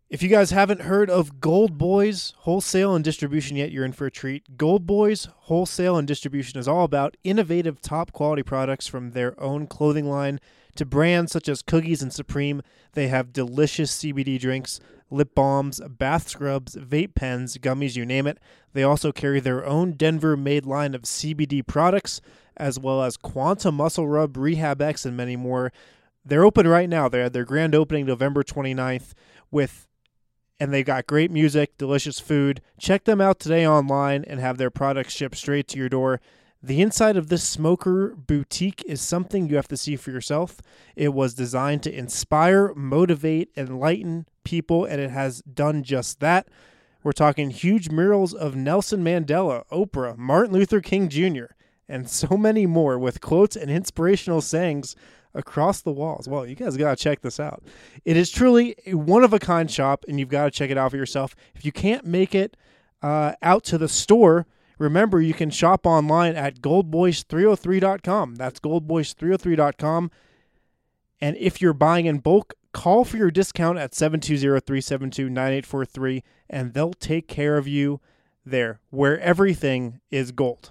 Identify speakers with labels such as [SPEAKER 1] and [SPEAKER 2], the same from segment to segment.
[SPEAKER 1] If you guys haven't heard of Gold Boys Wholesale and Distribution yet, you're in for a treat. Gold Boys Wholesale and Distribution is all about innovative, top-quality products from their own clothing line to brands such as Cookies and Supreme. They have delicious CBD drinks, lip balms, bath scrubs, vape pens, gummies, you name it. They also carry their own Denver-made line of CBD products, as well as Quanta Muscle Rub, Rehab X, and many more. They're open right now. They had their grand opening November 29th and they've got great music, delicious food. Check them out today online and have their products shipped straight to your door. The inside of this smoker boutique is something you have to see for yourself. It was designed to inspire, motivate, enlighten people, and it has done just that. We're talking huge murals of Nelson Mandela, Oprah, Martin Luther King Jr., and so many more with quotes and inspirational sayings across the walls. Well, you guys got to check this out. It is truly a one-of-a-kind shop, and you've got to check it out for yourself. If you can't make it out to the store, remember you can shop online at goldboys303.com. That's goldboys303.com. And if you're buying in bulk, call for your discount at 720-372-9843, and they'll take care of you there, where everything is gold.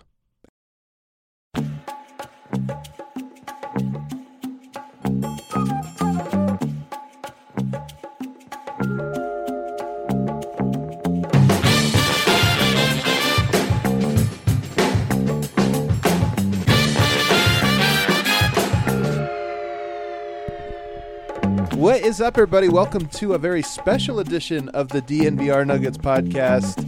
[SPEAKER 2] What is up, everybody? Welcome to a very special edition of the DNVR Nuggets podcast.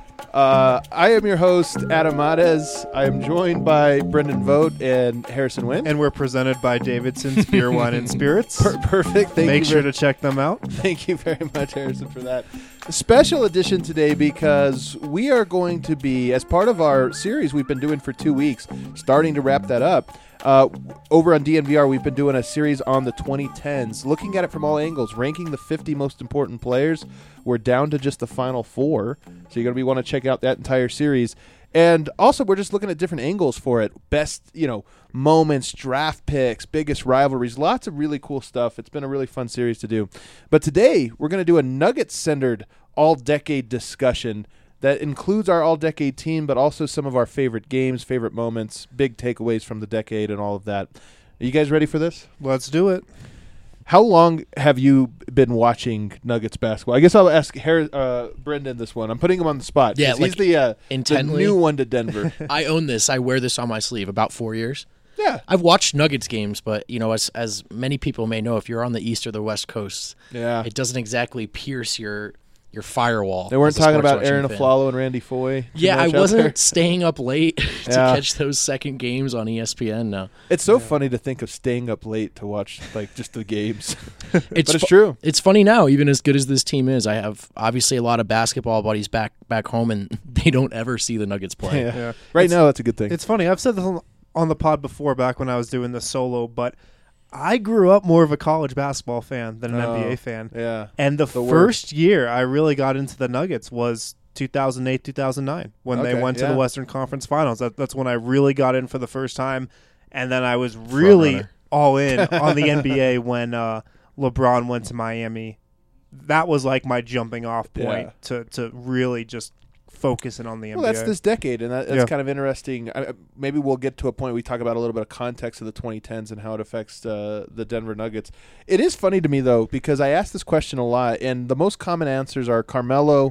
[SPEAKER 2] I am your host, Adam Mades. I am joined by Brendan Vogt and Harrison Wynn.
[SPEAKER 1] And we're presented by Davidson's Beer, Wine, and Spirits.
[SPEAKER 2] Perfect.
[SPEAKER 1] Make sure to check them out.
[SPEAKER 2] Thank you very much, Harrison, for that. A special edition today because we are going to be, as part of our series we've been doing for 2 weeks, starting to wrap that up. Over on DNVR, we've been doing a series on the 2010s, looking at it from all angles, ranking the 50 most important players. We're down to just the final 4, so you're going to want to check out that entire series. And also, we're just looking at different angles for it. Best, moments, draft picks, biggest rivalries, lots of really cool stuff. It's been a really fun series to do. But today, we're going to do a Nuggets-centered all-decade discussion that includes our all-decade team, but also some of our favorite games, favorite moments, big takeaways from the decade, and all of that. Are you guys ready for this?
[SPEAKER 1] Let's do it.
[SPEAKER 2] How long have you been watching Nuggets basketball? I guess I'll ask Brendan this one. I'm putting him on the spot.
[SPEAKER 3] Yeah,
[SPEAKER 2] he's the new one to Denver.
[SPEAKER 3] I own this. I wear this on my sleeve. About 4 years.
[SPEAKER 2] Yeah,
[SPEAKER 3] I've watched Nuggets games, but as many people may know, if you're on the East or the West Coast, it doesn't exactly pierce your firewall.
[SPEAKER 2] They weren't talking about Aaron Aflalo and Randy Foye.
[SPEAKER 3] Yeah, I wasn't staying up late to catch those second games on ESPN now.
[SPEAKER 2] It's so funny to think of staying up late to watch just the games. But it's true.
[SPEAKER 3] It's funny now, even as good as this team is. I have obviously a lot of basketball buddies back home, and they don't ever see the Nuggets play.
[SPEAKER 2] Yeah. Right now, that's a good thing.
[SPEAKER 1] It's funny. I've said this on the pod before back when I was doing this solo, but I grew up more of a college basketball fan than an NBA fan.
[SPEAKER 2] Yeah.
[SPEAKER 1] And the first year I really got into the Nuggets was 2008, 2009 when they went to the Western Conference Finals. That's when I really got in for the first time. And then I was really all in on the NBA when LeBron went to Miami. That was like my jumping off point to really just focusing on the NBA.
[SPEAKER 2] Well, that's this decade, and that's kind of interesting. Maybe we'll get to a point we talk about a little bit of context of the 2010s and how it affects the Denver Nuggets. It is funny to me, though, because I ask this question a lot, and the most common answers are Carmelo.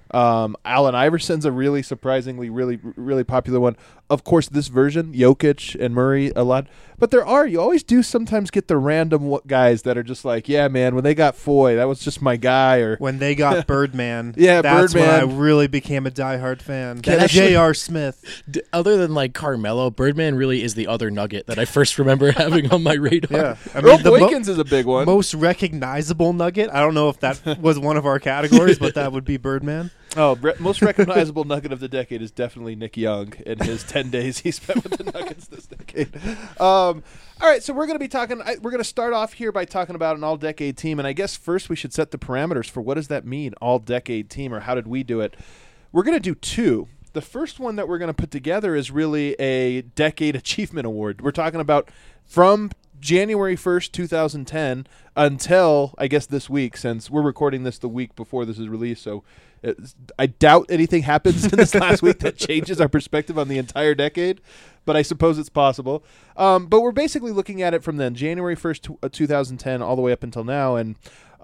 [SPEAKER 2] Allen Iverson's a really surprisingly, really, really popular one. Of course, this version, Jokic and Murray a lot. But you always do sometimes get the random guys that are just like, yeah, man, when they got Foy, that was just my guy. Or
[SPEAKER 1] when they got Birdman,
[SPEAKER 2] that's
[SPEAKER 1] when I really became a diehard fan. J.R. Smith.
[SPEAKER 3] Other than like Carmelo, Birdman really is the other Nugget that I first remember having on my radar.
[SPEAKER 2] Yeah, Earl Boykins is a big one.
[SPEAKER 1] Most recognizable Nugget. I don't know if that was one of our categories, but that would be Birdman.
[SPEAKER 2] Oh, most recognizable Nugget of the decade is definitely Nick Young in his 10 days he spent with the Nuggets this decade. All right, so we're going to be talking. We're going to start off here by talking about an all-decade team, and I guess first we should set the parameters for what does that mean, all-decade team, or how did we do it? We're going to do 2. The first one that we're going to put together is really a decade achievement award. We're talking about from January 1st, 2010 until, I guess, this week, since we're recording this the week before this is released. So I doubt anything happens in this last week that changes our perspective on the entire decade, but I suppose it's possible. But we're basically looking at it from then, January 1st, 2010, all the way up until now. And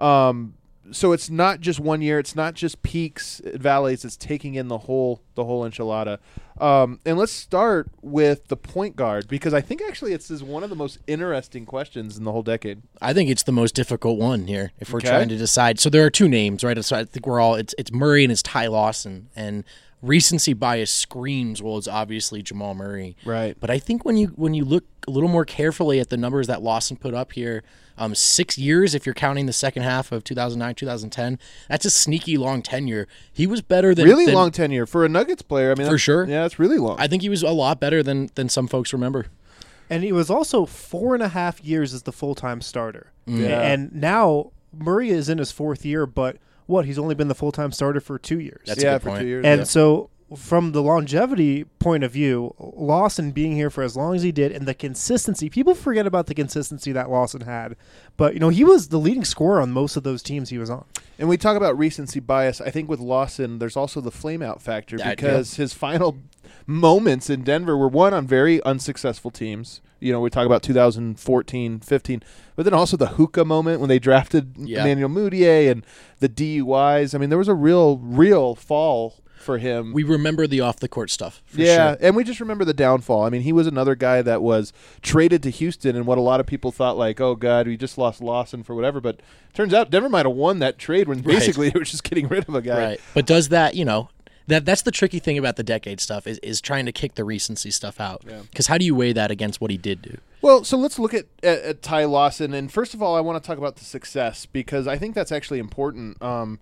[SPEAKER 2] so it's not just 1 year. It's not just peaks, valleys. It's taking in the whole enchilada. And let's start with the point guard, because I think actually this is one of the most interesting questions in the whole decade.
[SPEAKER 3] I think it's the most difficult one here if we're trying to decide. So there are two names, right? So I think we're all it's Murray and it's Ty Lawson, and recency bias screams, well, it's obviously Jamal Murray.
[SPEAKER 2] Right.
[SPEAKER 3] But I think when you look a little more carefully at the numbers that Lawson put up here, 6 years, if you're counting the second half of 2009, 2010, that's a sneaky long tenure. He was better than...
[SPEAKER 2] Really long tenure for a Nuggets player. I mean,
[SPEAKER 3] for sure.
[SPEAKER 2] Yeah, it's really long.
[SPEAKER 3] I think he was a lot better than some folks remember.
[SPEAKER 1] And he was also 4.5 years as the full-time starter.
[SPEAKER 2] Yeah.
[SPEAKER 1] And now Murray is in his fourth year, but he's only been the full-time starter for 2 years.
[SPEAKER 3] That's a good point.
[SPEAKER 2] For 2 years.
[SPEAKER 1] And so from the longevity point of view, Lawson being here for as long as he did and the consistency, people forget about the consistency that Lawson had. But, he was the leading scorer on most of those teams he was on. And
[SPEAKER 2] we talk about recency bias. I think with Lawson, there's also the flame-out factor because his final moments in Denver were won on very unsuccessful teams. We talk about 2014, 15, but then also the hookah moment when they drafted Emmanuel Mudiay and the DUIs. I mean, there was a real fall for him.
[SPEAKER 3] We remember the off-the-court stuff. For
[SPEAKER 2] sure.
[SPEAKER 3] Sure.
[SPEAKER 2] And we just remember the downfall. I mean, he was another guy that was traded to Houston, and what a lot of people thought, like, oh, God, we just lost Lawson for whatever. But turns out Denver might have won that trade when basically they were just getting rid of a guy.
[SPEAKER 3] Right. But does that, that's the tricky thing about the decade stuff is trying to kick the recency stuff out. Because how do you weigh that against what he did do?
[SPEAKER 2] Well, so let's look at Ty Lawson. And first of all, I want to talk about the success, because I think that's actually important.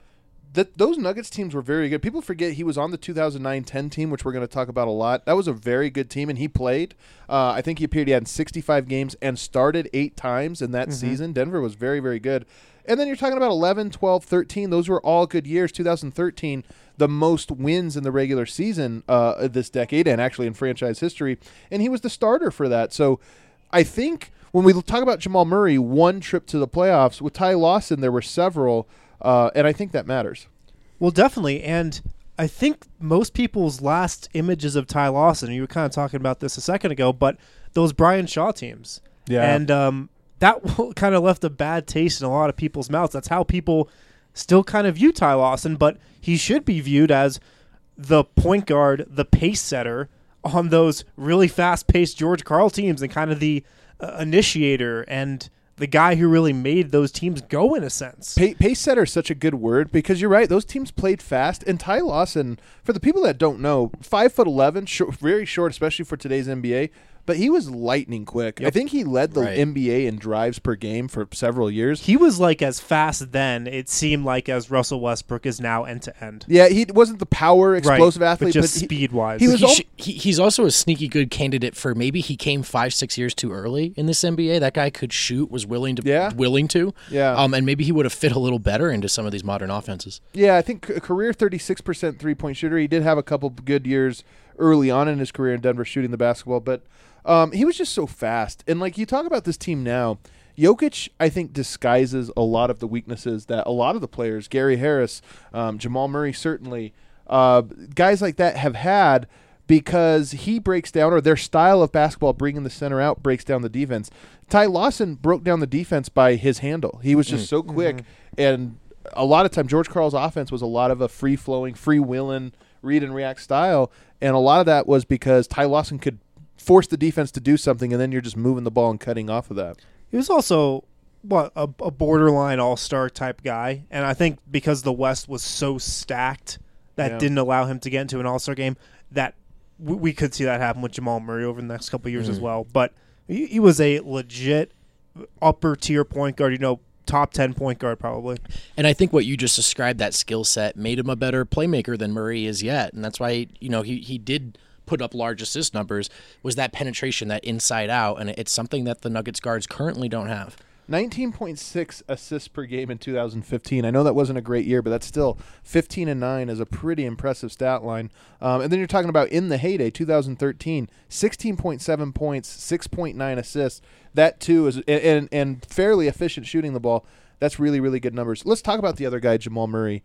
[SPEAKER 2] Those Nuggets teams were very good. People forget he was on the 2009-10 team, which we're going to talk about a lot. That was a very good team, and he played. I think he appeared. He had 65 games and started 8 times in that season. Denver was very, very good. And then you're talking about 11, 12, 13. Those were all good years. 2013, the most wins in the regular season this decade and actually in franchise history. And he was the starter for that. So I think when we talk about Jamal Murray, one trip to the playoffs, with Ty Lawson, there were several. And I think that matters.
[SPEAKER 1] Well, definitely. And I think most people's last images of Ty Lawson, you were kind of talking about this a second ago, but those Brian Shaw teams.
[SPEAKER 2] Yeah.
[SPEAKER 1] And that kind of left a bad taste in a lot of people's mouths. That's how people still kind of view Ty Lawson, but he should be viewed as the point guard, the pace setter on those really fast-paced George Karl teams and kind of the initiator and the guy who really made those teams go in a sense.
[SPEAKER 2] Pace setter is such a good word, because you're right. Those teams played fast. And Ty Lawson, for the people that don't know, 5'11", very short, especially for today's NBA. But he was lightning quick. Yep. I think he led the NBA in drives per game for several years.
[SPEAKER 1] He was like as fast then, it seemed like, as Russell Westbrook is now end to end.
[SPEAKER 2] Yeah, he wasn't the power, explosive athlete.
[SPEAKER 1] But just speed-wise.
[SPEAKER 3] He's also a sneaky good candidate for maybe he came 5-6 years too early in this NBA. That guy could shoot, was willing to.
[SPEAKER 2] Yeah.
[SPEAKER 3] And maybe he would have fit a little better into some of these modern offenses.
[SPEAKER 2] Yeah, I think a career 36% three-point shooter. He did have a couple good years early on in his career in Denver shooting the basketball, but he was just so fast. And like you talk about this team now, Jokic, I think, disguises a lot of the weaknesses that a lot of the players, Gary Harris, Jamal Murray certainly, guys like that have had, because he breaks down, or their style of basketball, bringing the center out, breaks down the defense. Ty Lawson broke down the defense by his handle. He was just so quick. And a lot of time, George Karl's offense was a lot of a free-flowing, free-willing, read-and-react style. And a lot of that was because Ty Lawson could force the defense to do something, and then you're just moving the ball and cutting off of that.
[SPEAKER 1] He was also a borderline all-star type guy, and I think because the West was so stacked that didn't allow him to get into an all-star game, that we could see that happen with Jamal Murray over the next couple of years as well. But he was a legit upper-tier point guard, top 10 point guard probably.
[SPEAKER 3] And I think what you just described, that skill set, made him a better playmaker than Murray is yet, and that's why he did put up large assist numbers, was that penetration, that inside out, and it's something that the Nuggets guards currently don't have.
[SPEAKER 2] 19.6 assists per game in 2015. I know that wasn't a great year, but that's still 15-9 is a pretty impressive stat line. And then you're talking about in the heyday, 2013, 16.7 points, 6.9 assists. That too is and fairly efficient shooting the ball. That's really, really good numbers. Let's talk about the other guy, Jamal Murray.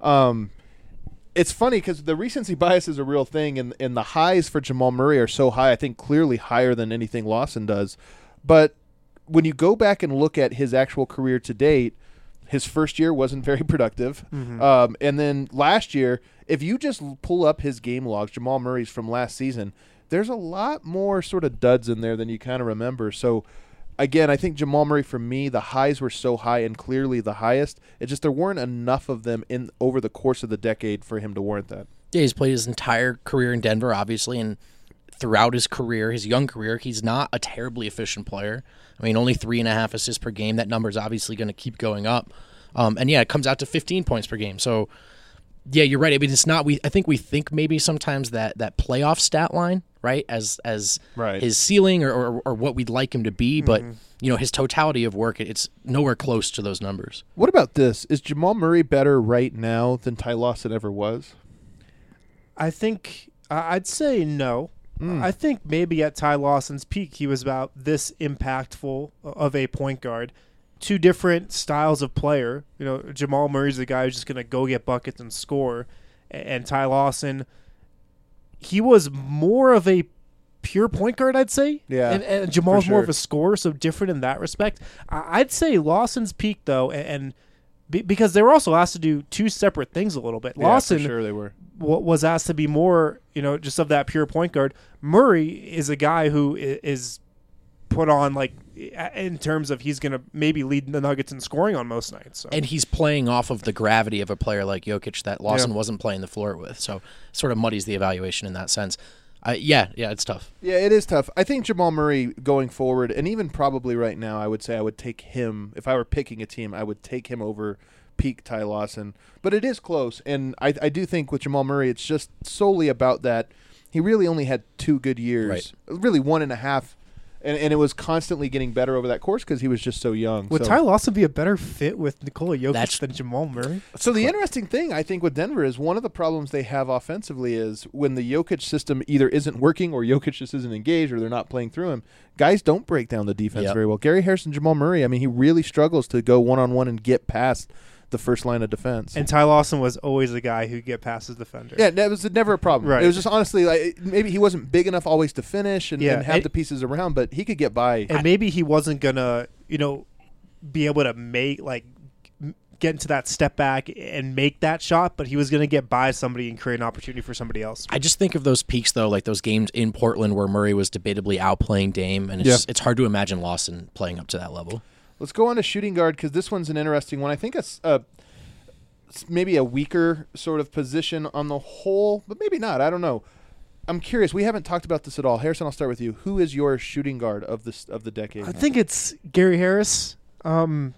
[SPEAKER 2] It's funny because the recency bias is a real thing, and the highs for Jamal Murray are so high, I think clearly higher than anything Lawson does. But when you go back and look at his actual career to date, his first year wasn't very productive. Mm-hmm. And then last year, if you just pull up his game logs, Jamal Murray's from last season, there's a lot more sort of duds in there than you kind of remember. So, again, I think Jamal Murray, for me, the highs were so high and clearly the highest. It's just there weren't enough of them in over the course of the decade for him to warrant that.
[SPEAKER 3] Yeah, he's played his entire career in Denver, obviously, and throughout his career, his young career, he's not a terribly efficient player. I mean, only 3.5 assists per game. That number is obviously going to keep going up. And yeah, it comes out to 15 points per game. So, yeah, you're right. I mean, it's not. I think we think maybe sometimes that playoff stat line, right, as
[SPEAKER 2] right.
[SPEAKER 3] his ceiling or what we'd like him to be, but his totality of work, it's nowhere close to those numbers.
[SPEAKER 2] What about this? Is Jamal Murray better right now than Ty Lawson ever was?
[SPEAKER 1] I think I'd say no. I think maybe at Ty Lawson's peak, he was about this impactful of a point guard. Two different styles of player. Jamal Murray's the guy who's just going to go get buckets and score. And Ty Lawson, he was more of a pure point guard, I'd say.
[SPEAKER 2] Yeah.
[SPEAKER 1] And Jamal's more of a scorer, so different in that respect. I'd say Lawson's peak, though, and because they were also asked to do two separate things a little bit. Lawson,
[SPEAKER 2] for sure they were.
[SPEAKER 1] Was asked to be more, just of that pure point guard. Murray is a guy who is put on, like, in terms of he's going to maybe lead the Nuggets in scoring on most nights. So.
[SPEAKER 3] And he's playing off of the gravity of a player like Jokic that Lawson wasn't playing the floor with. So sort of muddies the evaluation in that sense. Yeah, it's tough.
[SPEAKER 2] Yeah, it is tough. I think Jamal Murray going forward, and even probably right now, I would say I would take him. If I were picking a team, I would take him over peak Ty Lawson. But it is close, and I do think with Jamal Murray, it's just solely about that. He really only had 2 good years,
[SPEAKER 3] right.
[SPEAKER 2] Really 1.5, and it was constantly getting better over that course because he was just so young.
[SPEAKER 1] Would Ty Lawson be a better fit with Nikola Jokic than Jamal Murray?
[SPEAKER 2] So the interesting thing, I think, with Denver is one of the problems they have offensively is when the Jokic system either isn't working or Jokic just isn't engaged or they're not playing through him, guys don't break down the defense very well. Gary Harris and Jamal Murray, I mean, he really struggles to go one-on-one and get past the first line of defense.
[SPEAKER 1] And Ty Lawson was always the guy who'd get past his defender.
[SPEAKER 2] Yeah, that was never a problem.
[SPEAKER 1] Right.
[SPEAKER 2] It was just honestly like maybe he wasn't big enough always to finish and have the pieces around, but he could get by.
[SPEAKER 1] And maybe he wasn't gonna, be able to get into that step back and make that shot, but he was gonna get by somebody and create an opportunity for somebody else.
[SPEAKER 3] I just think of those peaks though, like those games in Portland where Murray was debatably outplaying Dame, and it's hard to imagine Lawson playing up to that level.
[SPEAKER 2] Let's go on to shooting guard because this one's an interesting one. I think it's maybe a weaker sort of position on the whole, but maybe not. I don't know. I'm curious. We haven't talked about this at all. Harrison, I'll start with you. Who is your shooting guard of the decade?
[SPEAKER 1] I think it's Gary Harris. This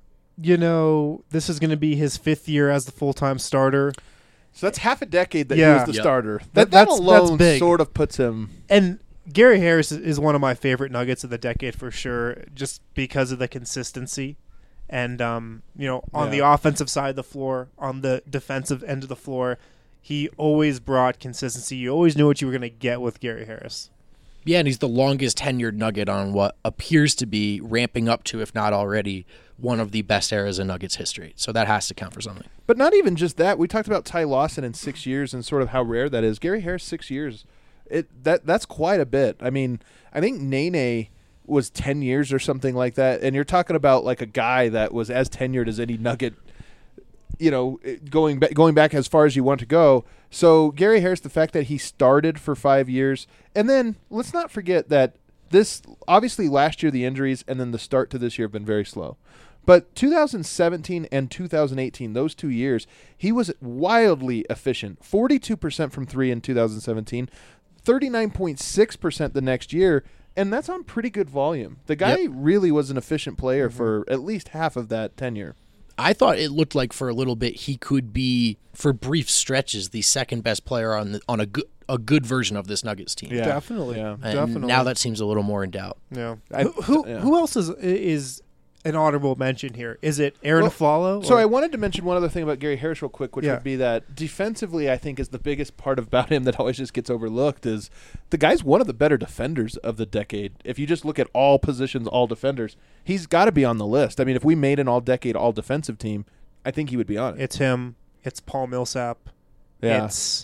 [SPEAKER 1] is going to be his 5th year as the full-time starter.
[SPEAKER 2] So that's half a decade that he was the starter. That alone
[SPEAKER 1] that's big.
[SPEAKER 2] Sort of puts him.
[SPEAKER 1] And Gary Harris is one of my favorite Nuggets of the decade for sure, just because of the consistency. And, on the offensive side of the floor, on the defensive end of the floor, he always brought consistency. You always knew what you were going to get with Gary Harris.
[SPEAKER 3] Yeah, and he's the longest tenured Nugget on what appears to be ramping up to, if not already, one of the best eras in Nuggets history. So that has to count for something.
[SPEAKER 2] But not even just that. We talked about Ty Lawson in 6 years and sort of how rare that is. Gary Harris, 6 years. That's quite a bit. I mean, I think Nene was 10 years or something like that, and you're talking about like a guy that was as tenured as any Nugget, going back as far as you want to go. So Gary Harris, the fact that he started for 5 years, and then let's not forget that this obviously last year the injuries and then the start to this year have been very slow. But 2017 and 2018, those 2 years, he was wildly efficient. 42% from 3 in 2017, 39.6% the next year. And that's on pretty good volume. The guy really was an efficient player for at least half of that tenure.
[SPEAKER 3] I thought it looked like for a little bit he could be, for brief stretches, the second best player on a good version of this Nuggets team.
[SPEAKER 2] Yeah.
[SPEAKER 1] Definitely.
[SPEAKER 2] Yeah.
[SPEAKER 3] And
[SPEAKER 1] definitely.
[SPEAKER 3] Now that seems a little more in doubt.
[SPEAKER 1] Yeah. Who else is an honorable mention here. Is it Aaron
[SPEAKER 2] Well,
[SPEAKER 1] Aflalo?
[SPEAKER 2] So I wanted to mention one other thing about Gary Harris real quick, which
[SPEAKER 1] Yeah.
[SPEAKER 2] would be that defensively, I think is the biggest part about him that always just gets overlooked is the guy's one of the better defenders of the decade. If you just look at all positions, all defenders, he's got to be on the list. I mean, if we made an all-decade, all-defensive team, I think he would be on it.
[SPEAKER 1] It's him. It's Paul Millsap.
[SPEAKER 2] Yeah.
[SPEAKER 1] It's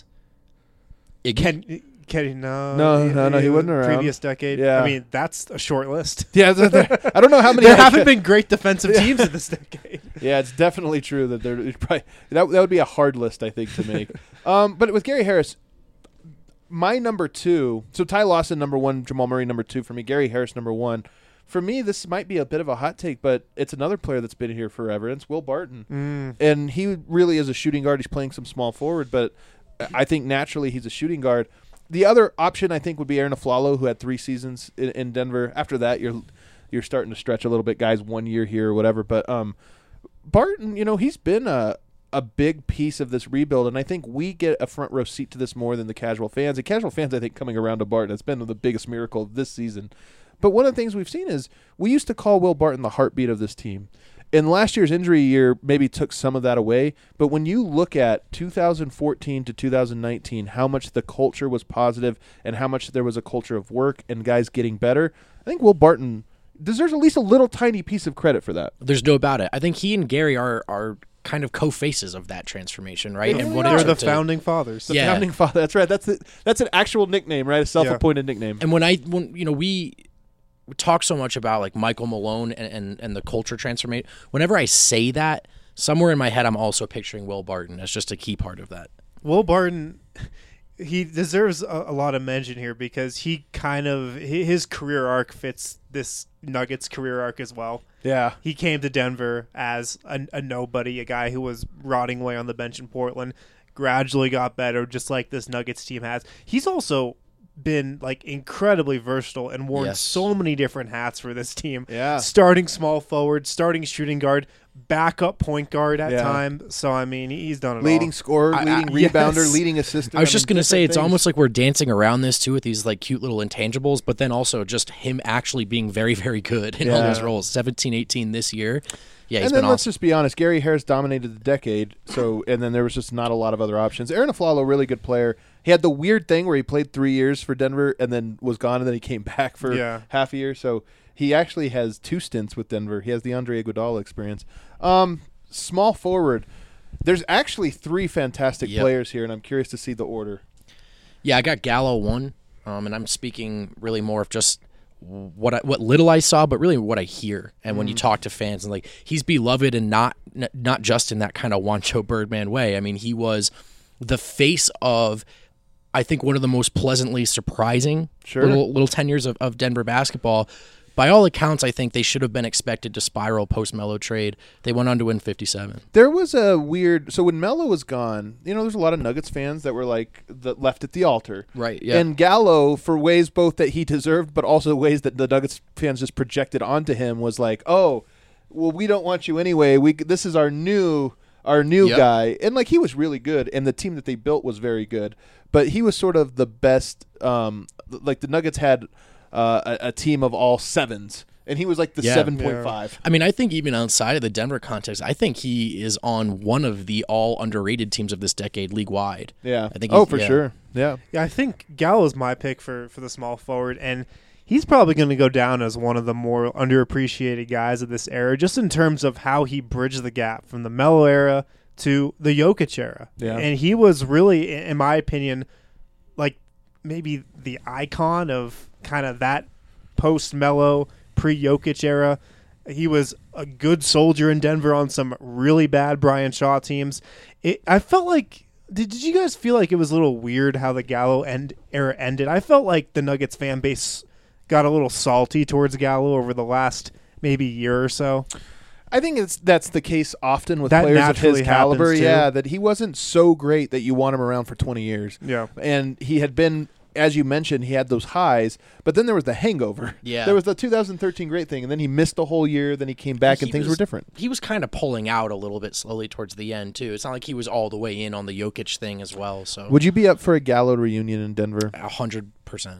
[SPEAKER 3] Iggy.
[SPEAKER 1] Kenny.
[SPEAKER 2] No, he wasn't around.
[SPEAKER 1] Previous decade.
[SPEAKER 2] Yeah.
[SPEAKER 1] I mean, that's a short list.
[SPEAKER 2] Yeah, I don't know how many.
[SPEAKER 1] There haven't been great defensive teams in this decade.
[SPEAKER 2] Yeah, it's definitely true that there probably that would be a hard list, I think, to make. But with Gary Harris, my number 2. So Ty Lawson number 1, Jamal Murray number 2 for me. Gary Harris number 1. For me, this might be a bit of a hot take, but it's another player that's been here forever. And it's Will Barton, and he really is a shooting guard. He's playing some small forward, but I think naturally he's a shooting guard. The other option I think would be Aaron Aflalo, who had 3 seasons in Denver. After that, you're starting to stretch a little bit, guys. 1 year here or whatever, but Barton, he's been a big piece of this rebuild, and I think we get a front row seat to this more than the casual fans. And casual fans, I think, coming around to Barton has been the biggest miracle of this season. But one of the things we've seen is we used to call Will Barton the heartbeat of this team. And last year's injury year maybe took some of that away. But when you look at 2014 to 2019, how much the culture was positive and how much there was a culture of work and guys getting better, I think Will Barton deserves at least a little tiny piece of credit for that.
[SPEAKER 3] There's no about it. I think he and Gary are kind of co-faces of that transformation, right?
[SPEAKER 2] They
[SPEAKER 3] And
[SPEAKER 2] really
[SPEAKER 3] what it
[SPEAKER 1] They're
[SPEAKER 3] took
[SPEAKER 1] the
[SPEAKER 3] to-
[SPEAKER 1] founding fathers.
[SPEAKER 2] The
[SPEAKER 3] Yeah.
[SPEAKER 2] founding father. That's right. That's an actual nickname, right? A self-appointed nickname.
[SPEAKER 3] And when we talk so much about like Michael Malone and the culture transformation, whenever I say that, somewhere in my head I'm also picturing Will Barton as just a key part of that.
[SPEAKER 1] Will Barton, he deserves a lot of mention here because his career arc fits this Nuggets career arc as well.
[SPEAKER 2] Yeah.
[SPEAKER 1] He came to Denver as a nobody, a guy who was rotting away on the bench in Portland, gradually got better, just like this Nuggets team has. He's also been like incredibly versatile and worn
[SPEAKER 3] Yes.
[SPEAKER 1] so many different hats for this team.
[SPEAKER 2] Yeah.
[SPEAKER 1] Starting small forward, starting shooting guard, backup point guard at
[SPEAKER 2] Yeah.
[SPEAKER 1] times. So I mean, he's done it
[SPEAKER 2] Leading
[SPEAKER 1] all.
[SPEAKER 2] scorer, leading
[SPEAKER 1] yes.
[SPEAKER 2] rebounder, leading assistant.
[SPEAKER 3] I was just going to say, it's
[SPEAKER 2] different
[SPEAKER 3] almost like we're dancing around this too with these like cute little intangibles, but then also just him actually being very, very good in all
[SPEAKER 2] Yeah.
[SPEAKER 3] those roles. 17, 18 this year. Yeah, he's
[SPEAKER 2] And then
[SPEAKER 3] been
[SPEAKER 2] let's
[SPEAKER 3] awesome.
[SPEAKER 2] just be honest, Gary Harris dominated the decade, and then there was just not a lot of other options. Aaron Aflalo, really good player. He had the weird thing where he played 3 years for Denver and then was gone, and then he came back for half a year. So he actually has 2 stints with Denver. He has the Andre Iguodala experience. Small forward. There's actually 3 fantastic players here, and I'm curious to see the order.
[SPEAKER 3] Yeah, I got Gallo 1, and I'm speaking really more of just what little I saw, but really what I hear. And when you talk to fans, and like he's beloved, and not just in that kind of Juancho Birdman way. I mean, he was the face of, I think, one of the most pleasantly surprising little tenures of Denver basketball. By all accounts, I think they should have been expected to spiral post-Melo trade. They went on to win 57.
[SPEAKER 2] There was a weird. So when Melo was gone, there's a lot of Nuggets fans that were like left at the altar.
[SPEAKER 3] Right, yeah.
[SPEAKER 2] And Gallo, for ways both that he deserved, but also ways that the Nuggets fans just projected onto him, was like, "Oh, well, we don't want you anyway. This is our new guy." And like he was really good, and the team that they built was very good. But he was sort of the best. Like the Nuggets had a team of all 7s. And he was like the 7.5.
[SPEAKER 3] I mean, I think even outside of the Denver context, I think he is on one of the all underrated teams of this decade league-wide.
[SPEAKER 2] Yeah.
[SPEAKER 3] I think
[SPEAKER 2] for sure. Yeah.
[SPEAKER 1] Yeah, I think Gallo's my pick for the small forward, and he's probably going to go down as one of the more underappreciated guys of this era, just in terms of how he bridged the gap from the Melo era to the Jokic era.
[SPEAKER 2] Yeah.
[SPEAKER 1] And he was really, in my opinion, like maybe the icon of kind of that post-Melo, pre-Jokic era. He was a good soldier in Denver on some really bad Brian Shaw teams. I felt like, did you guys feel like it was a little weird how the Gallo era ended? I felt like the Nuggets fan base got a little salty towards Gallo over the last maybe year or so.
[SPEAKER 2] I think that's the case often with
[SPEAKER 1] That
[SPEAKER 2] players of his
[SPEAKER 1] naturally
[SPEAKER 2] caliber.
[SPEAKER 1] happens, too.
[SPEAKER 2] Yeah, that he wasn't so great that you want him around for 20 years.
[SPEAKER 1] Yeah.
[SPEAKER 2] And he had been, as you mentioned, he had those highs, but then there was the hangover.
[SPEAKER 3] Yeah.
[SPEAKER 2] There was the 2013 great thing, and then he missed a whole year, then he came back, and things were different.
[SPEAKER 3] He was kind of pulling out a little bit slowly towards the end, too. It's not like he was all the way in on the Jokic thing as well. So
[SPEAKER 2] Would you be up for a Gallo reunion in Denver?
[SPEAKER 3] 100%.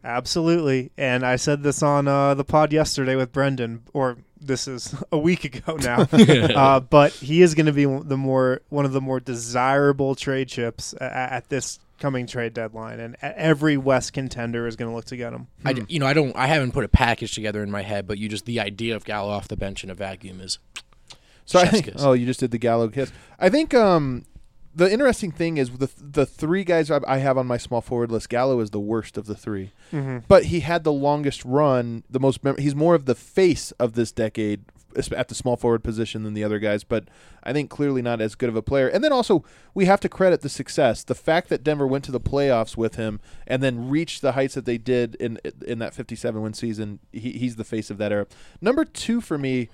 [SPEAKER 1] Absolutely. And I said this on the pod yesterday with Brendan, or this is a week ago now. But he is going to be one of the more desirable trade chips at this coming trade deadline, and every West contender is going to look to get him.
[SPEAKER 3] I haven't put a package together in my head, but the idea of Gallo off the bench in a vacuum is
[SPEAKER 2] so. I
[SPEAKER 3] chef's
[SPEAKER 2] think.
[SPEAKER 3] kiss.
[SPEAKER 2] Oh, you just did the Gallo kiss. I think the interesting thing is the three guys I have on my small forward list. Gallo is the worst of the three, but he had the longest run, the most. He's more of the face of this decade at the small forward position than the other guys, but I think clearly not as good of a player. And then also we have to credit the success, the fact that Denver went to the playoffs with him and then reached the heights that they did in that 57-win season. He's the face of that era. Number two for me,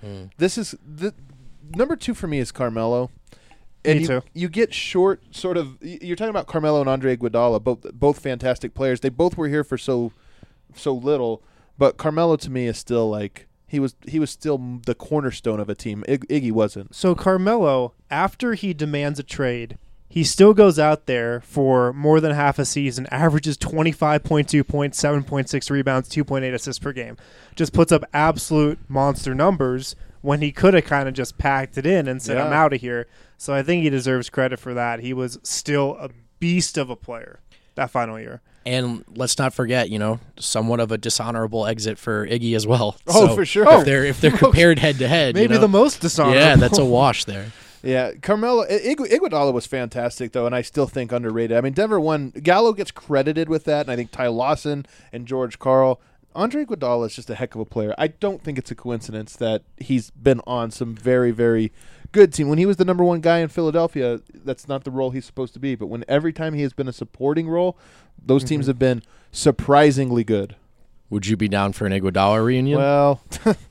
[SPEAKER 2] number two for me is Carmelo. And
[SPEAKER 1] Me too.
[SPEAKER 2] You get short, sort of. You're talking about Carmelo and Andre Iguodala, both fantastic players. They both were here for so little, but Carmelo to me is still like he was still the cornerstone of a team. Iggy wasn't.
[SPEAKER 1] So Carmelo, after he demands a trade, he still goes out there for more than half a season, averages 25.2 points, 7.6 rebounds, 2.8 assists per game. Just puts up absolute monster numbers when he could have kind of just packed it in and said, I'm out of here. So I think he deserves credit for that. He was still a beast of a player that final year.
[SPEAKER 3] And let's not forget, somewhat of a dishonorable exit for Iggy as well.
[SPEAKER 2] Oh,
[SPEAKER 3] so
[SPEAKER 2] for sure.
[SPEAKER 3] If they're compared head to head,
[SPEAKER 1] maybe the most dishonorable.
[SPEAKER 3] Yeah, that's a wash there.
[SPEAKER 2] Yeah, Carmelo Iguodala was fantastic though, and I still think underrated. I mean, Denver won. Gallo gets credited with that, and I think Ty Lawson and George Karl. Andre Iguodala is just a heck of a player. I don't think it's a coincidence that he's been on some very, very good team. When he was the number one guy in Philadelphia, that's not the role he's supposed to be. But when every time he has been a supporting role, those teams have been surprisingly good.
[SPEAKER 3] Would you be down for an Iguodala reunion?
[SPEAKER 2] Well,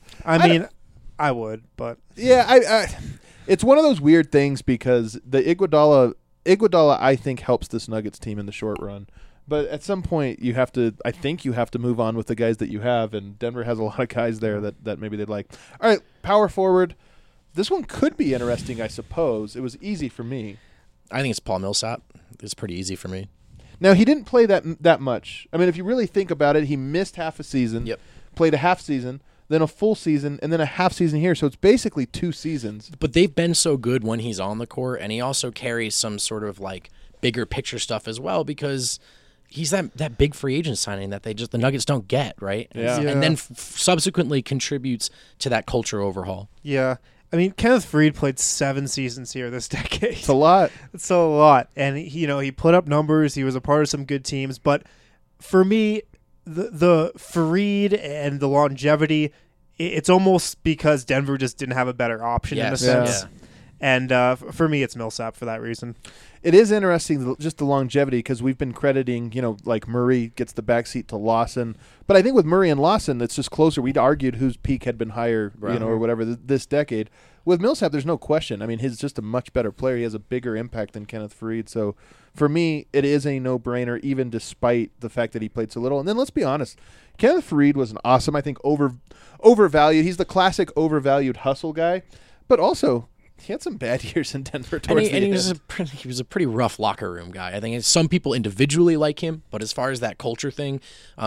[SPEAKER 1] I would, but
[SPEAKER 2] yeah, I it's one of those weird things because the Iguodala I think helps this Nuggets team in the short run. But at some point, I think you have to move on with the guys that you have, and Denver has a lot of guys there that maybe they'd like. All right, power forward. This one could be interesting, I suppose. It was easy for me.
[SPEAKER 3] I think it's Paul Millsap. It's pretty easy for me.
[SPEAKER 2] Now, he didn't play that much. I mean, if you really think about it, he missed half a season, played a half season, then a full season, and then a half season here. So it's basically 2 seasons.
[SPEAKER 3] But they've been so good when he's on the court, and he also carries some sort of bigger picture stuff as well because he's that big free agent signing that the Nuggets don't get, right?
[SPEAKER 2] Yeah.
[SPEAKER 3] And then subsequently contributes to that culture overhaul.
[SPEAKER 1] Yeah. I mean, Kenneth Faried played 7 seasons here this decade.
[SPEAKER 2] It's a lot.
[SPEAKER 1] It's a lot. And, he put up numbers. He was a part of some good teams. But for me, the Faried and the longevity, it's almost because Denver just didn't have a better option in a sense.
[SPEAKER 3] Yeah.
[SPEAKER 1] And for me, it's Millsap for that reason.
[SPEAKER 2] It is interesting, just the longevity, because we've been crediting, like Murray gets the backseat to Lawson. But I think with Murray and Lawson, it's just closer. We'd argued whose peak had been higher, or whatever, this decade. With Millsap, there's no question. I mean, he's just a much better player. He has a bigger impact than Kenneth Faried. So for me, it is a no-brainer, even despite the fact that he played so little. And then let's be honest, Kenneth Faried was an awesome, I think, overvalued. He's the classic overvalued hustle guy. But also, he had some bad years in Denver towards the end.
[SPEAKER 3] He was a pretty rough locker room guy. I think some people individually like him, but as far as that culture thing,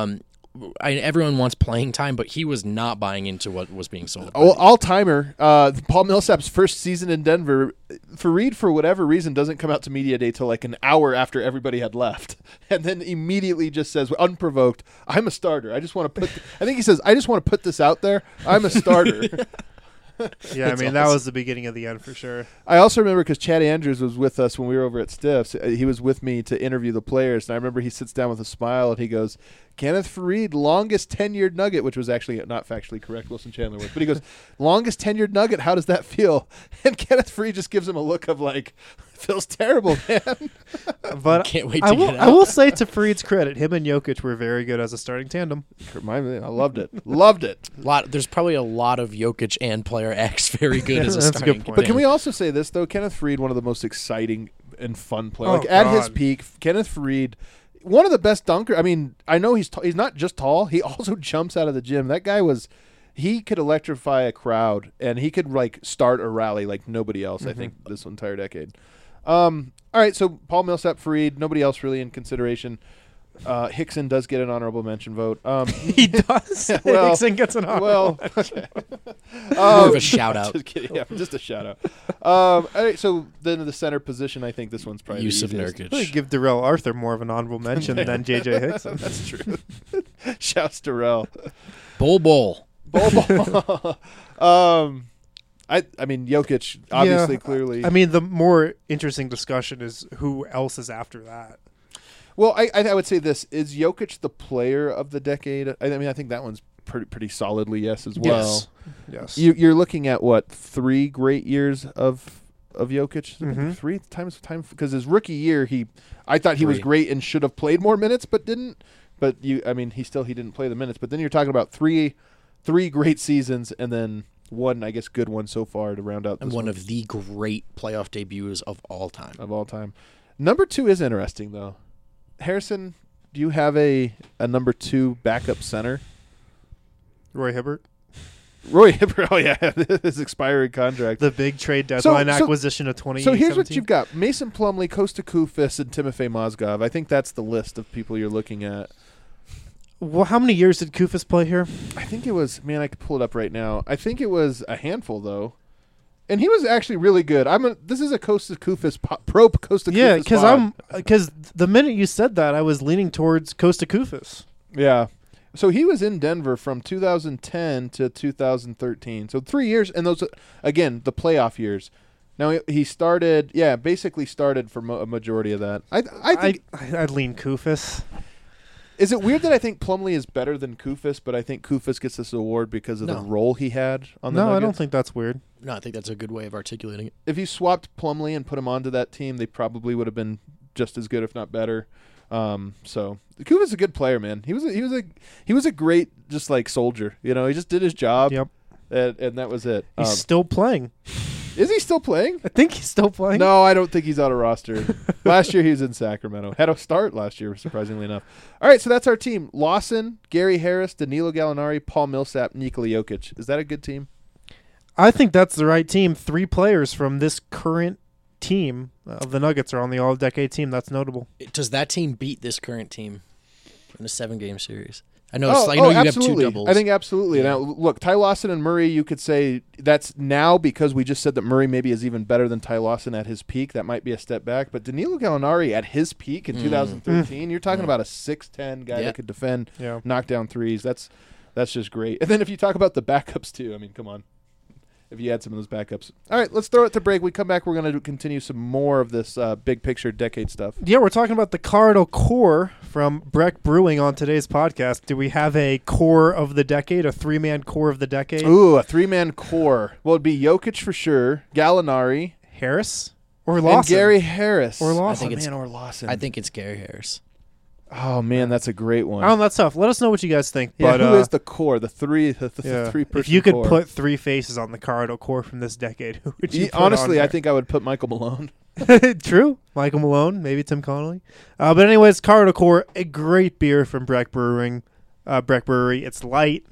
[SPEAKER 3] everyone wants playing time, but he was not buying into what was being sold.
[SPEAKER 2] All-timer, Paul Millsap's first season in Denver, Faried, for whatever reason, doesn't come out to media day till like an hour after everybody had left, and then immediately just says, unprovoked, I'm a starter. I just want to I think he says, I just want to put this out there. I'm a starter.
[SPEAKER 1] Yeah, I mean, that was the beginning of the end for sure.
[SPEAKER 2] I also remember because Chad Andrews was with us when we were over at Stiffs. He was with me to interview the players, and I remember he sits down with a smile and he goes, Kenneth Faried, longest tenured Nugget, which was actually not factually correct, Wilson Chandler was. But he goes, longest tenured Nugget, how does that feel? And Kenneth Faried just gives him a look of like, feels terrible, man.
[SPEAKER 1] But
[SPEAKER 3] can't wait to get out.
[SPEAKER 1] I will say to Faried's credit, him and Jokic were very good as a starting tandem.
[SPEAKER 2] I loved it. Loved it.
[SPEAKER 3] There's probably a lot of Jokic and player X very good as a
[SPEAKER 1] That's a good
[SPEAKER 3] starting
[SPEAKER 1] point.
[SPEAKER 2] But can we also say this, though? Kenneth Faried, one of the most exciting and fun players.
[SPEAKER 1] Oh,
[SPEAKER 2] at his
[SPEAKER 1] God.
[SPEAKER 2] peak, Kenneth Faried, one of the best dunkers. I mean, I know he's not just tall. He also jumps out of the gym. That guy he could electrify a crowd, and he could, like, start a rally like nobody else, I think, this entire decade. All right, so Paul Millsap, Faried, nobody else really in consideration. Hickson does get an honorable mention vote.
[SPEAKER 1] He does.
[SPEAKER 2] Well,
[SPEAKER 1] Hickson gets an honorable
[SPEAKER 2] well,
[SPEAKER 1] mention.
[SPEAKER 3] More of a shout out.
[SPEAKER 2] Just kidding. Yeah, just a shout out. All right, so then in the center position, I think this one's probably
[SPEAKER 3] Yusuf
[SPEAKER 2] the easiest.
[SPEAKER 1] I'd
[SPEAKER 3] Nurkic.
[SPEAKER 1] give Darrell Arthur more of an honorable mention than J.J. Hickson.
[SPEAKER 2] That's true. Shouts to Rel.
[SPEAKER 3] Bull.
[SPEAKER 2] I mean, Jokic, obviously, clearly.
[SPEAKER 1] I mean, the more interesting discussion is who else is after that.
[SPEAKER 2] Well, I would say this. Is Jokic the player of the decade? I mean, I think that one's pretty solidly yes as well.
[SPEAKER 1] Yes.
[SPEAKER 2] You're looking at, what, 3 great years of Jokic?
[SPEAKER 1] Mhm.
[SPEAKER 2] 3 times because his rookie year, I thought he was
[SPEAKER 3] 3.
[SPEAKER 2] great and should have played more minutes, but didn't. But he didn't play the minutes. But then you're talking about three great seasons and then one, I guess, good one so far to round out this
[SPEAKER 3] And one of the great playoff debuts of all time.
[SPEAKER 2] of all time. Number 2 is interesting though. Harrison, do you have a number 2 backup center?
[SPEAKER 1] Roy Hibbert,
[SPEAKER 2] Roy Hibbert. Oh yeah, his expiring contract.
[SPEAKER 1] the big trade deadline
[SPEAKER 2] so-
[SPEAKER 1] acquisition of 2017.
[SPEAKER 2] So here's what you've got: Mason Plumlee, Kosta Koufos, and Timofey Mozgov. I think that's the list of people you're looking at.
[SPEAKER 1] Well, how many years did Koufos play here?
[SPEAKER 2] I think it was, man, I could pull it up right now. I think it was a handful though, and he was actually really good. This is a Kosta Koufos pro Kosta Koufos.
[SPEAKER 1] Yeah,
[SPEAKER 2] pod.
[SPEAKER 1] because the minute you said that, I was leaning towards Kosta Koufos.
[SPEAKER 2] Yeah. So he was in Denver from 2010 to 2013. So 3 years, and those, again, the playoff years. Now he started, basically started for a majority of that. I think.
[SPEAKER 1] I'd lean Koufos.
[SPEAKER 2] Is it weird that I think Plumlee is better than Koufos, but I think Koufos gets this award because of the
[SPEAKER 3] No.
[SPEAKER 2] role he had on the
[SPEAKER 1] No,
[SPEAKER 2] Nuggets?
[SPEAKER 1] I don't think that's weird.
[SPEAKER 3] No, I think that's a good way of articulating it.
[SPEAKER 2] If you swapped Plumlee and put him onto that team, they probably would have been just as good, if not better. So Koufos is a good player, man. He was a great just like soldier. You know, he just did his job.
[SPEAKER 1] Yep.
[SPEAKER 2] And that was it.
[SPEAKER 1] He's still playing.
[SPEAKER 2] Is he still playing?
[SPEAKER 1] I think he's still playing.
[SPEAKER 2] No, I don't think he's on a roster. Last year he was in Sacramento. Had a start last year, surprisingly enough. All right, so that's our team. Lawson, Gary Harris, Danilo Gallinari, Paul Millsap, Nikola Jokic. Is that a good team?
[SPEAKER 1] I think that's the right team. 3 players from this current team of the Nuggets are on the all-decade team. That's notable.
[SPEAKER 3] Does that team beat this current team in a 7-game series? I know. I know you
[SPEAKER 2] absolutely.
[SPEAKER 3] have 2 doubles.
[SPEAKER 2] I think absolutely.
[SPEAKER 3] Yeah.
[SPEAKER 2] Now, look, Ty Lawson and Murray, you could say that's now because we just said that Murray maybe is even better than Ty Lawson at his peak. That might be a step back. But Danilo Gallinari at his peak in 2013, you're talking about a 6'10" guy that could defend, knock down threes. That's just great. And then if you talk about the backups too, I mean, come on. If you had some of those backups. All right, let's throw it to break. We come back, we're going to continue some more of this big picture decade stuff.
[SPEAKER 1] Yeah, we're talking about the Corridor Core from Breck Brewing on today's podcast. Do we have a core of the decade, a 3-man core of the decade?
[SPEAKER 2] Ooh, a 3-man core. Well, it'd be Jokic for sure, Gallinari,
[SPEAKER 1] Harris or Lawson?
[SPEAKER 2] and Gary Harris.
[SPEAKER 1] Or Lawson.
[SPEAKER 2] Or Lawson.
[SPEAKER 3] I think it's Gary Harris.
[SPEAKER 2] Oh man, that's a great one.
[SPEAKER 1] Oh, that's tough. Let us know what you guys think.
[SPEAKER 2] Yeah,
[SPEAKER 1] But
[SPEAKER 2] who is the core? The three-person
[SPEAKER 1] if you could
[SPEAKER 2] core.
[SPEAKER 1] put 3 faces on the Corridor Core from this decade, who would you put
[SPEAKER 2] honestly,
[SPEAKER 1] on
[SPEAKER 2] I think I would put Michael Malone.
[SPEAKER 1] there? True. Michael Malone, maybe Tim Connolly. But anyways, Corridor Core, a great beer from Breck Brewing. Breck Brewery. It's light,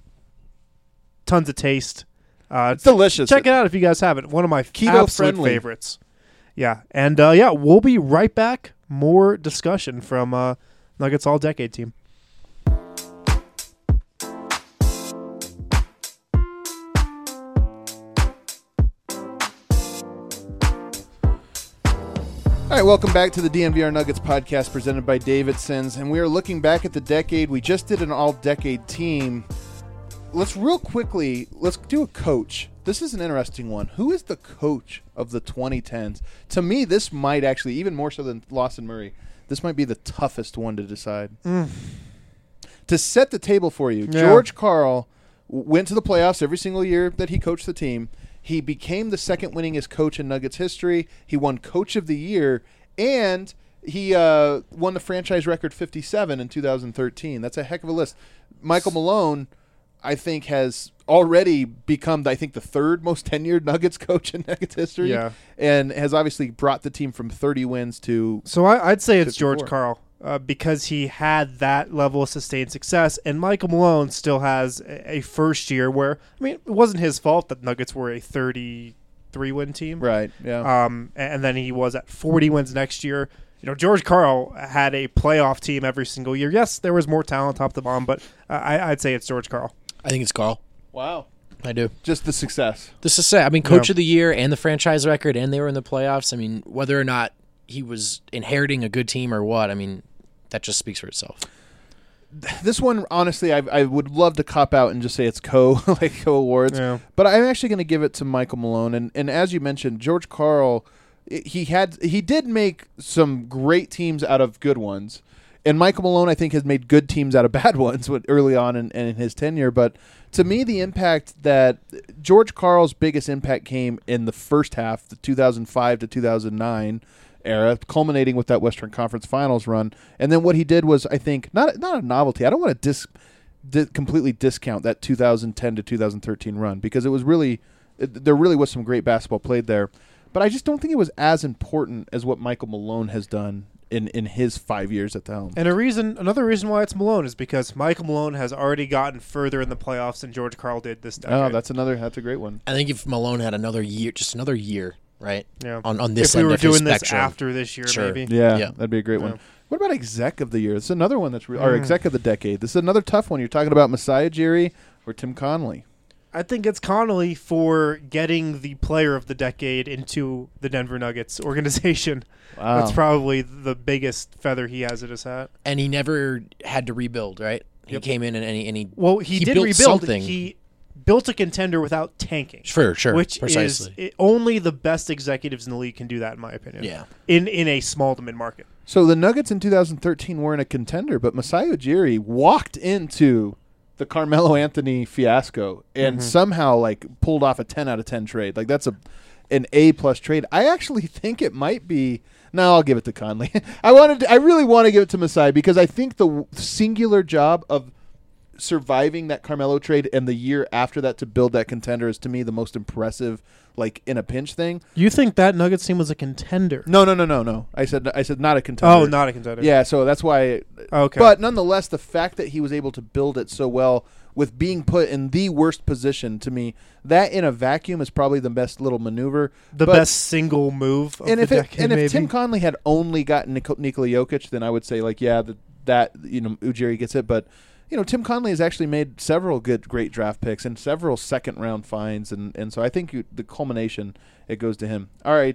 [SPEAKER 1] tons of taste.
[SPEAKER 2] It's delicious.
[SPEAKER 1] Check it out if you guys haven't. One of my
[SPEAKER 2] Keto
[SPEAKER 1] absolute
[SPEAKER 2] friendly.
[SPEAKER 1] favorites. Yeah, and we'll be right back. More discussion from Nuggets All-Decade team.
[SPEAKER 2] All right, welcome back to the DNVR Nuggets podcast presented by Davidson's, and we are looking back at the decade. We just did an all-decade team. Let's do a coach. This is an interesting one. Who is the coach of the 2010s? To me, this might actually, even more so than Lawson Murray, this might be the toughest one to decide. To set the table for you, George Karl went to the playoffs every single year that he coached the team. He became the second winningest coach in Nuggets history. He won Coach of the Year, and he won the franchise record 57 in 2013. That's a heck of a list. Michael Malone, I think, has already become, the third most tenured Nuggets coach in Nuggets history, and has obviously brought the team from 30 wins to
[SPEAKER 1] So I'd say it's
[SPEAKER 2] 54.
[SPEAKER 1] George Karl because he had that level of sustained success, and Michael Malone still has a first year where, I mean, it wasn't his fault that Nuggets were a 33-win team.
[SPEAKER 2] right. Yeah.
[SPEAKER 1] And then he was at 40 wins next year. George Karl had a playoff team every single year. Yes, there was more talent top to bottom, but I'd say it's George Karl.
[SPEAKER 3] I think it's Carl.
[SPEAKER 2] Wow.
[SPEAKER 3] I do.
[SPEAKER 2] Just the success.
[SPEAKER 3] This is sad. I mean, coach of the year and the franchise record, and they were in the playoffs. I mean, whether or not he was inheriting a good team or what, I mean, that just speaks for itself.
[SPEAKER 2] This one, honestly, I would love to cop out and just say it's co awards, but I'm actually going to give it to Michael Malone. And as you mentioned, George Karl, he did make some great teams out of good ones, and Michael Malone, I think, has made good teams out of bad ones early on in his tenure. But to me, the impact that George Karl's biggest impact came in the first half, the 2005 to 2009 era, culminating with that Western Conference Finals run. And then what he did was, I think, not a novelty. I don't want to completely discount that 2010 to 2013 run, because it was there really was some great basketball played there. But I just don't think it was as important as what Michael Malone has done in his 5 years at the helm.
[SPEAKER 1] And another reason why it's Malone is because Michael Malone has already gotten further in the playoffs than George Karl did this decade.
[SPEAKER 2] Oh, that's a great one.
[SPEAKER 3] I think if Malone had another year, right?
[SPEAKER 1] Yeah.
[SPEAKER 3] On this
[SPEAKER 1] if we
[SPEAKER 3] end
[SPEAKER 1] were
[SPEAKER 3] of his
[SPEAKER 1] doing this
[SPEAKER 3] spectrum.
[SPEAKER 1] after this year,
[SPEAKER 3] Sure.
[SPEAKER 1] maybe.
[SPEAKER 2] Yeah,
[SPEAKER 3] Yeah.
[SPEAKER 2] that'd be a great one. What about exec of the year? This is another one that's or exec of the decade. This is another tough one. You're talking about Masai Ujiri or Tim Connolly.
[SPEAKER 1] I think it's Connolly for getting the player of the decade into the Denver Nuggets organization.
[SPEAKER 2] Wow.
[SPEAKER 1] That's probably the biggest feather he has at his hat.
[SPEAKER 3] And he never had to rebuild, right? He came in and
[SPEAKER 1] he did
[SPEAKER 3] built
[SPEAKER 1] rebuild.
[SPEAKER 3] something.
[SPEAKER 1] He built a contender without tanking.
[SPEAKER 3] Sure,
[SPEAKER 1] Which
[SPEAKER 3] precisely.
[SPEAKER 1] is only the best executives in the league can do that, in my opinion.
[SPEAKER 3] Yeah.
[SPEAKER 1] In a small to mid market.
[SPEAKER 2] So the Nuggets in 2013 weren't a contender, but Masai Ujiri walked into the Carmelo Anthony fiasco and somehow pulled off a 10 out of 10 trade. That's an A+ trade. I actually think it might be. No, I'll give it to Conley. I really want to give it to Masai because I think the singular job of surviving that Carmelo trade and the year after that to build that contender is, to me, the most impressive, in a pinch thing.
[SPEAKER 1] You think that Nuggets team was a contender?
[SPEAKER 2] No. I said not a contender.
[SPEAKER 1] Oh, not a contender.
[SPEAKER 2] Yeah, so that's why.
[SPEAKER 1] Okay.
[SPEAKER 2] But nonetheless, the fact that he was able to build it so well with being put in the worst position, to me, that in a vacuum is probably the best little maneuver.
[SPEAKER 1] The best single move of the decade,
[SPEAKER 2] and
[SPEAKER 1] maybe.
[SPEAKER 2] if Tim Connolly had only gotten Nikola Jokic, then I would say that Ujiri gets it. But Tim Connolly has actually made several great draft picks and several second-round finds, and so I think the culmination, it goes to him. All right,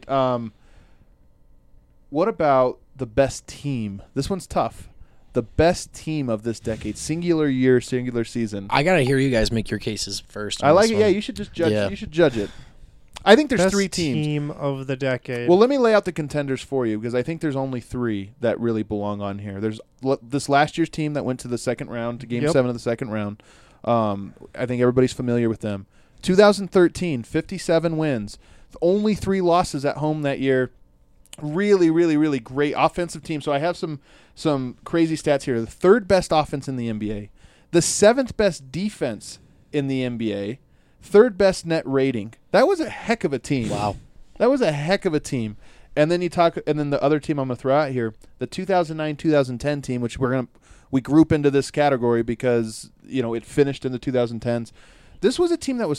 [SPEAKER 2] what about the best team? This one's tough. The best team of this decade, singular year, singular season.
[SPEAKER 3] I gotta hear you guys make your cases first.
[SPEAKER 2] I like it. Yeah, you should just judge.
[SPEAKER 3] Yeah.
[SPEAKER 2] You should judge it. I think there's
[SPEAKER 1] Best
[SPEAKER 2] 3 teams.
[SPEAKER 1] Team of the decade.
[SPEAKER 2] Well, let me lay out the contenders for you because I think there's only 3 that really belong on here. There's this last year's team that went to the second round, to Game 7 of the second round. I think everybody's familiar with them. 2013, 57 wins. Only 3 losses at home that year. Really, really, really great offensive team. So I have some crazy stats here. The 3rd best offense in the NBA. The 7th best defense in the NBA. 3rd best net rating. That was a heck of a team.
[SPEAKER 3] Wow.
[SPEAKER 2] That was a heck of a team. And then the other team I'm going to throw out here, the 2009-2010 team, which we group into this category because, it finished in the 2010s. This was a team that was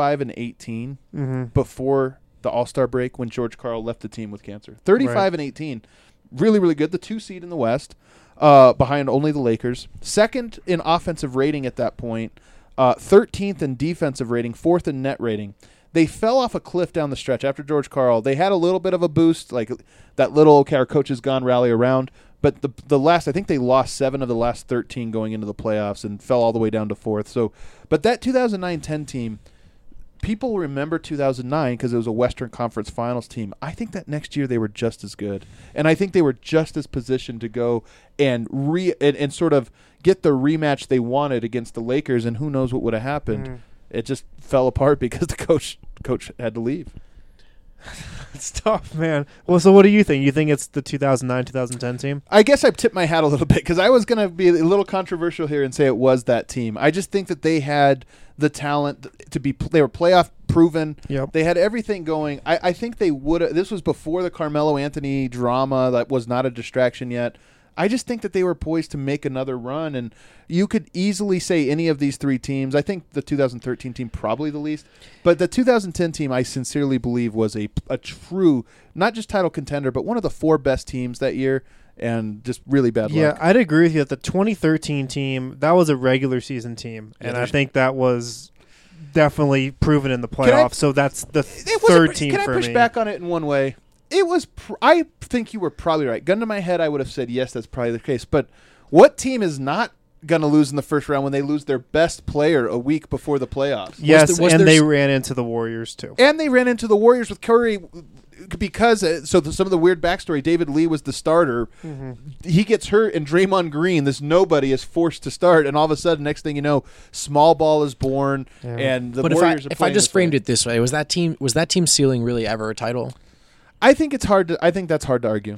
[SPEAKER 2] 35-18 before the All-Star break when George Karl left the team with cancer. 35-18. Really, really good. The 2 seed in the West, behind only the Lakers. 2nd in offensive rating at that point. 13th in defensive rating, 4th in net rating. They fell off a cliff down the stretch after George Karl. They had a little bit of a boost, that little our coach is gone rally around. But I think they lost 7 of the last 13 going into the playoffs and fell all the way down to 4th. So, but that 2009-10 team, people remember 2009 because it was a Western Conference Finals team. I think that next year they were just as good, and I think they were just as positioned to go and sort of get the rematch they wanted against the Lakers. And who knows what would have happened? It just fell apart because the coach had to leave.
[SPEAKER 1] It's tough, man. Well, so what do you think? You think it's the 2009-2010 team?
[SPEAKER 2] I guess I've tipped my hat a little bit because I was going to be a little controversial here and say it was that team. I just think that they had the talent to be. They were playoff proven.
[SPEAKER 1] Yep.
[SPEAKER 2] They had everything going. I think they would. This was before the Carmelo Anthony drama that was not a distraction yet. I just think that they were poised to make another run, and you could easily say any of these three teams. I think the 2013 team probably the least, but the 2010 team I sincerely believe was a true, not just title contender, but one of the 4 best teams that year, and just really bad luck.
[SPEAKER 1] Yeah, I'd agree with you that the 2013 team, that was a regular season team, and I think that was definitely proven in the playoffs, so that's the third team for me.
[SPEAKER 2] Can I push back on it in one way? It was. I think you were probably right. Gun to my head, I would have said yes. That's probably the case. But what team is not going to lose in the first round when they lose their best player a week before the playoffs?
[SPEAKER 1] Yes, they ran into the Warriors too.
[SPEAKER 2] And they ran into the Warriors with Curry because some of the weird backstory. David Lee was the starter. Mm-hmm. He gets hurt, and Draymond Green, this nobody, is forced to start. And all of a sudden, next thing you know, small ball is born, and the Warriors are playing.
[SPEAKER 3] If I just framed it this way, was that team ceiling really ever a title?
[SPEAKER 2] I think it's hard to. I think that's hard to argue.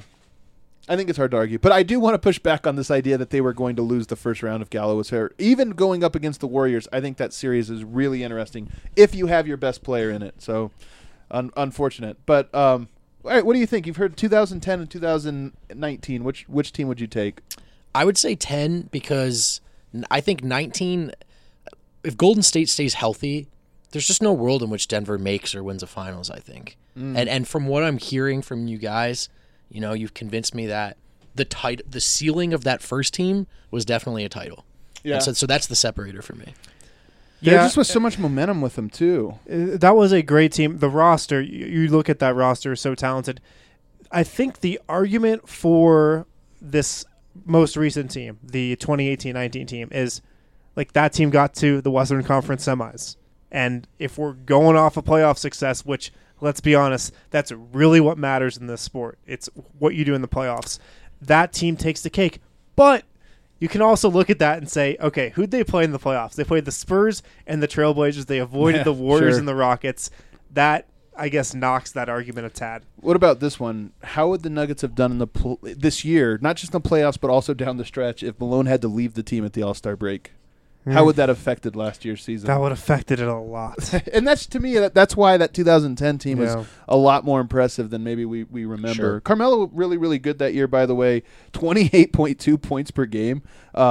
[SPEAKER 2] But I do want to push back on this idea that they were going to lose the first round if Gallo was hurt. Even going up against the Warriors, I think that series is really interesting if you have your best player in it. So, unfortunate. But all right, what do you think? You've heard 2010 and 2019. Which team would you take?
[SPEAKER 3] I would say 10 because I think 19. If Golden State stays healthy, there's just no world in which Denver makes or wins a finals, I think. And from what I'm hearing from you guys, you've convinced me that the ceiling of that first team was definitely a title. Yeah. And so that's the separator for me.
[SPEAKER 2] There just was so much momentum with them too.
[SPEAKER 1] That was a great team. The roster, you look at that roster, so talented. I think the argument for this most recent team, the 2018-19 team, is like that team got to the Western Conference semis. And if we're going off of playoff success, which, let's be honest, that's really what matters in this sport. It's what you do in the playoffs. That team takes the cake. But you can also look at that and say, okay, who'd they play in the playoffs? They played the Spurs and the Trailblazers. They avoided the Warriors and the Rockets. That, I guess, knocks that argument a tad.
[SPEAKER 2] What about this one? How would the Nuggets have done in this year, not just in the playoffs, but also down the stretch, if Malone had to leave the team at the All-Star break? How would that have affected last year's season?
[SPEAKER 1] That would have affected it a lot.
[SPEAKER 2] And that's, to me, that's why that 2010 team was a lot more impressive than maybe we remember. Sure. Carmelo really, really good that year, by the way. 28.2 points per game.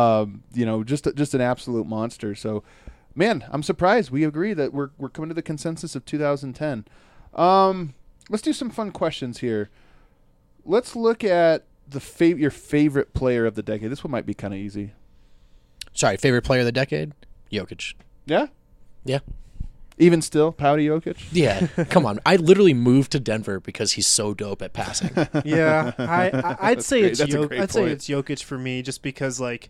[SPEAKER 2] Just an absolute monster. So, man, I'm surprised. We agree that we're coming to the consensus of 2010. Let's do some fun questions here. Let's look at your favorite player of the decade. This one might be kind of easy.
[SPEAKER 3] Sorry, favorite player of the decade? Jokic.
[SPEAKER 2] Yeah?
[SPEAKER 3] Yeah.
[SPEAKER 2] Even still, Pouty Jokic?
[SPEAKER 3] Yeah. Come on. I literally moved to Denver because he's so dope at passing.
[SPEAKER 1] Yeah. I'd say it's Jokic for me just because, like,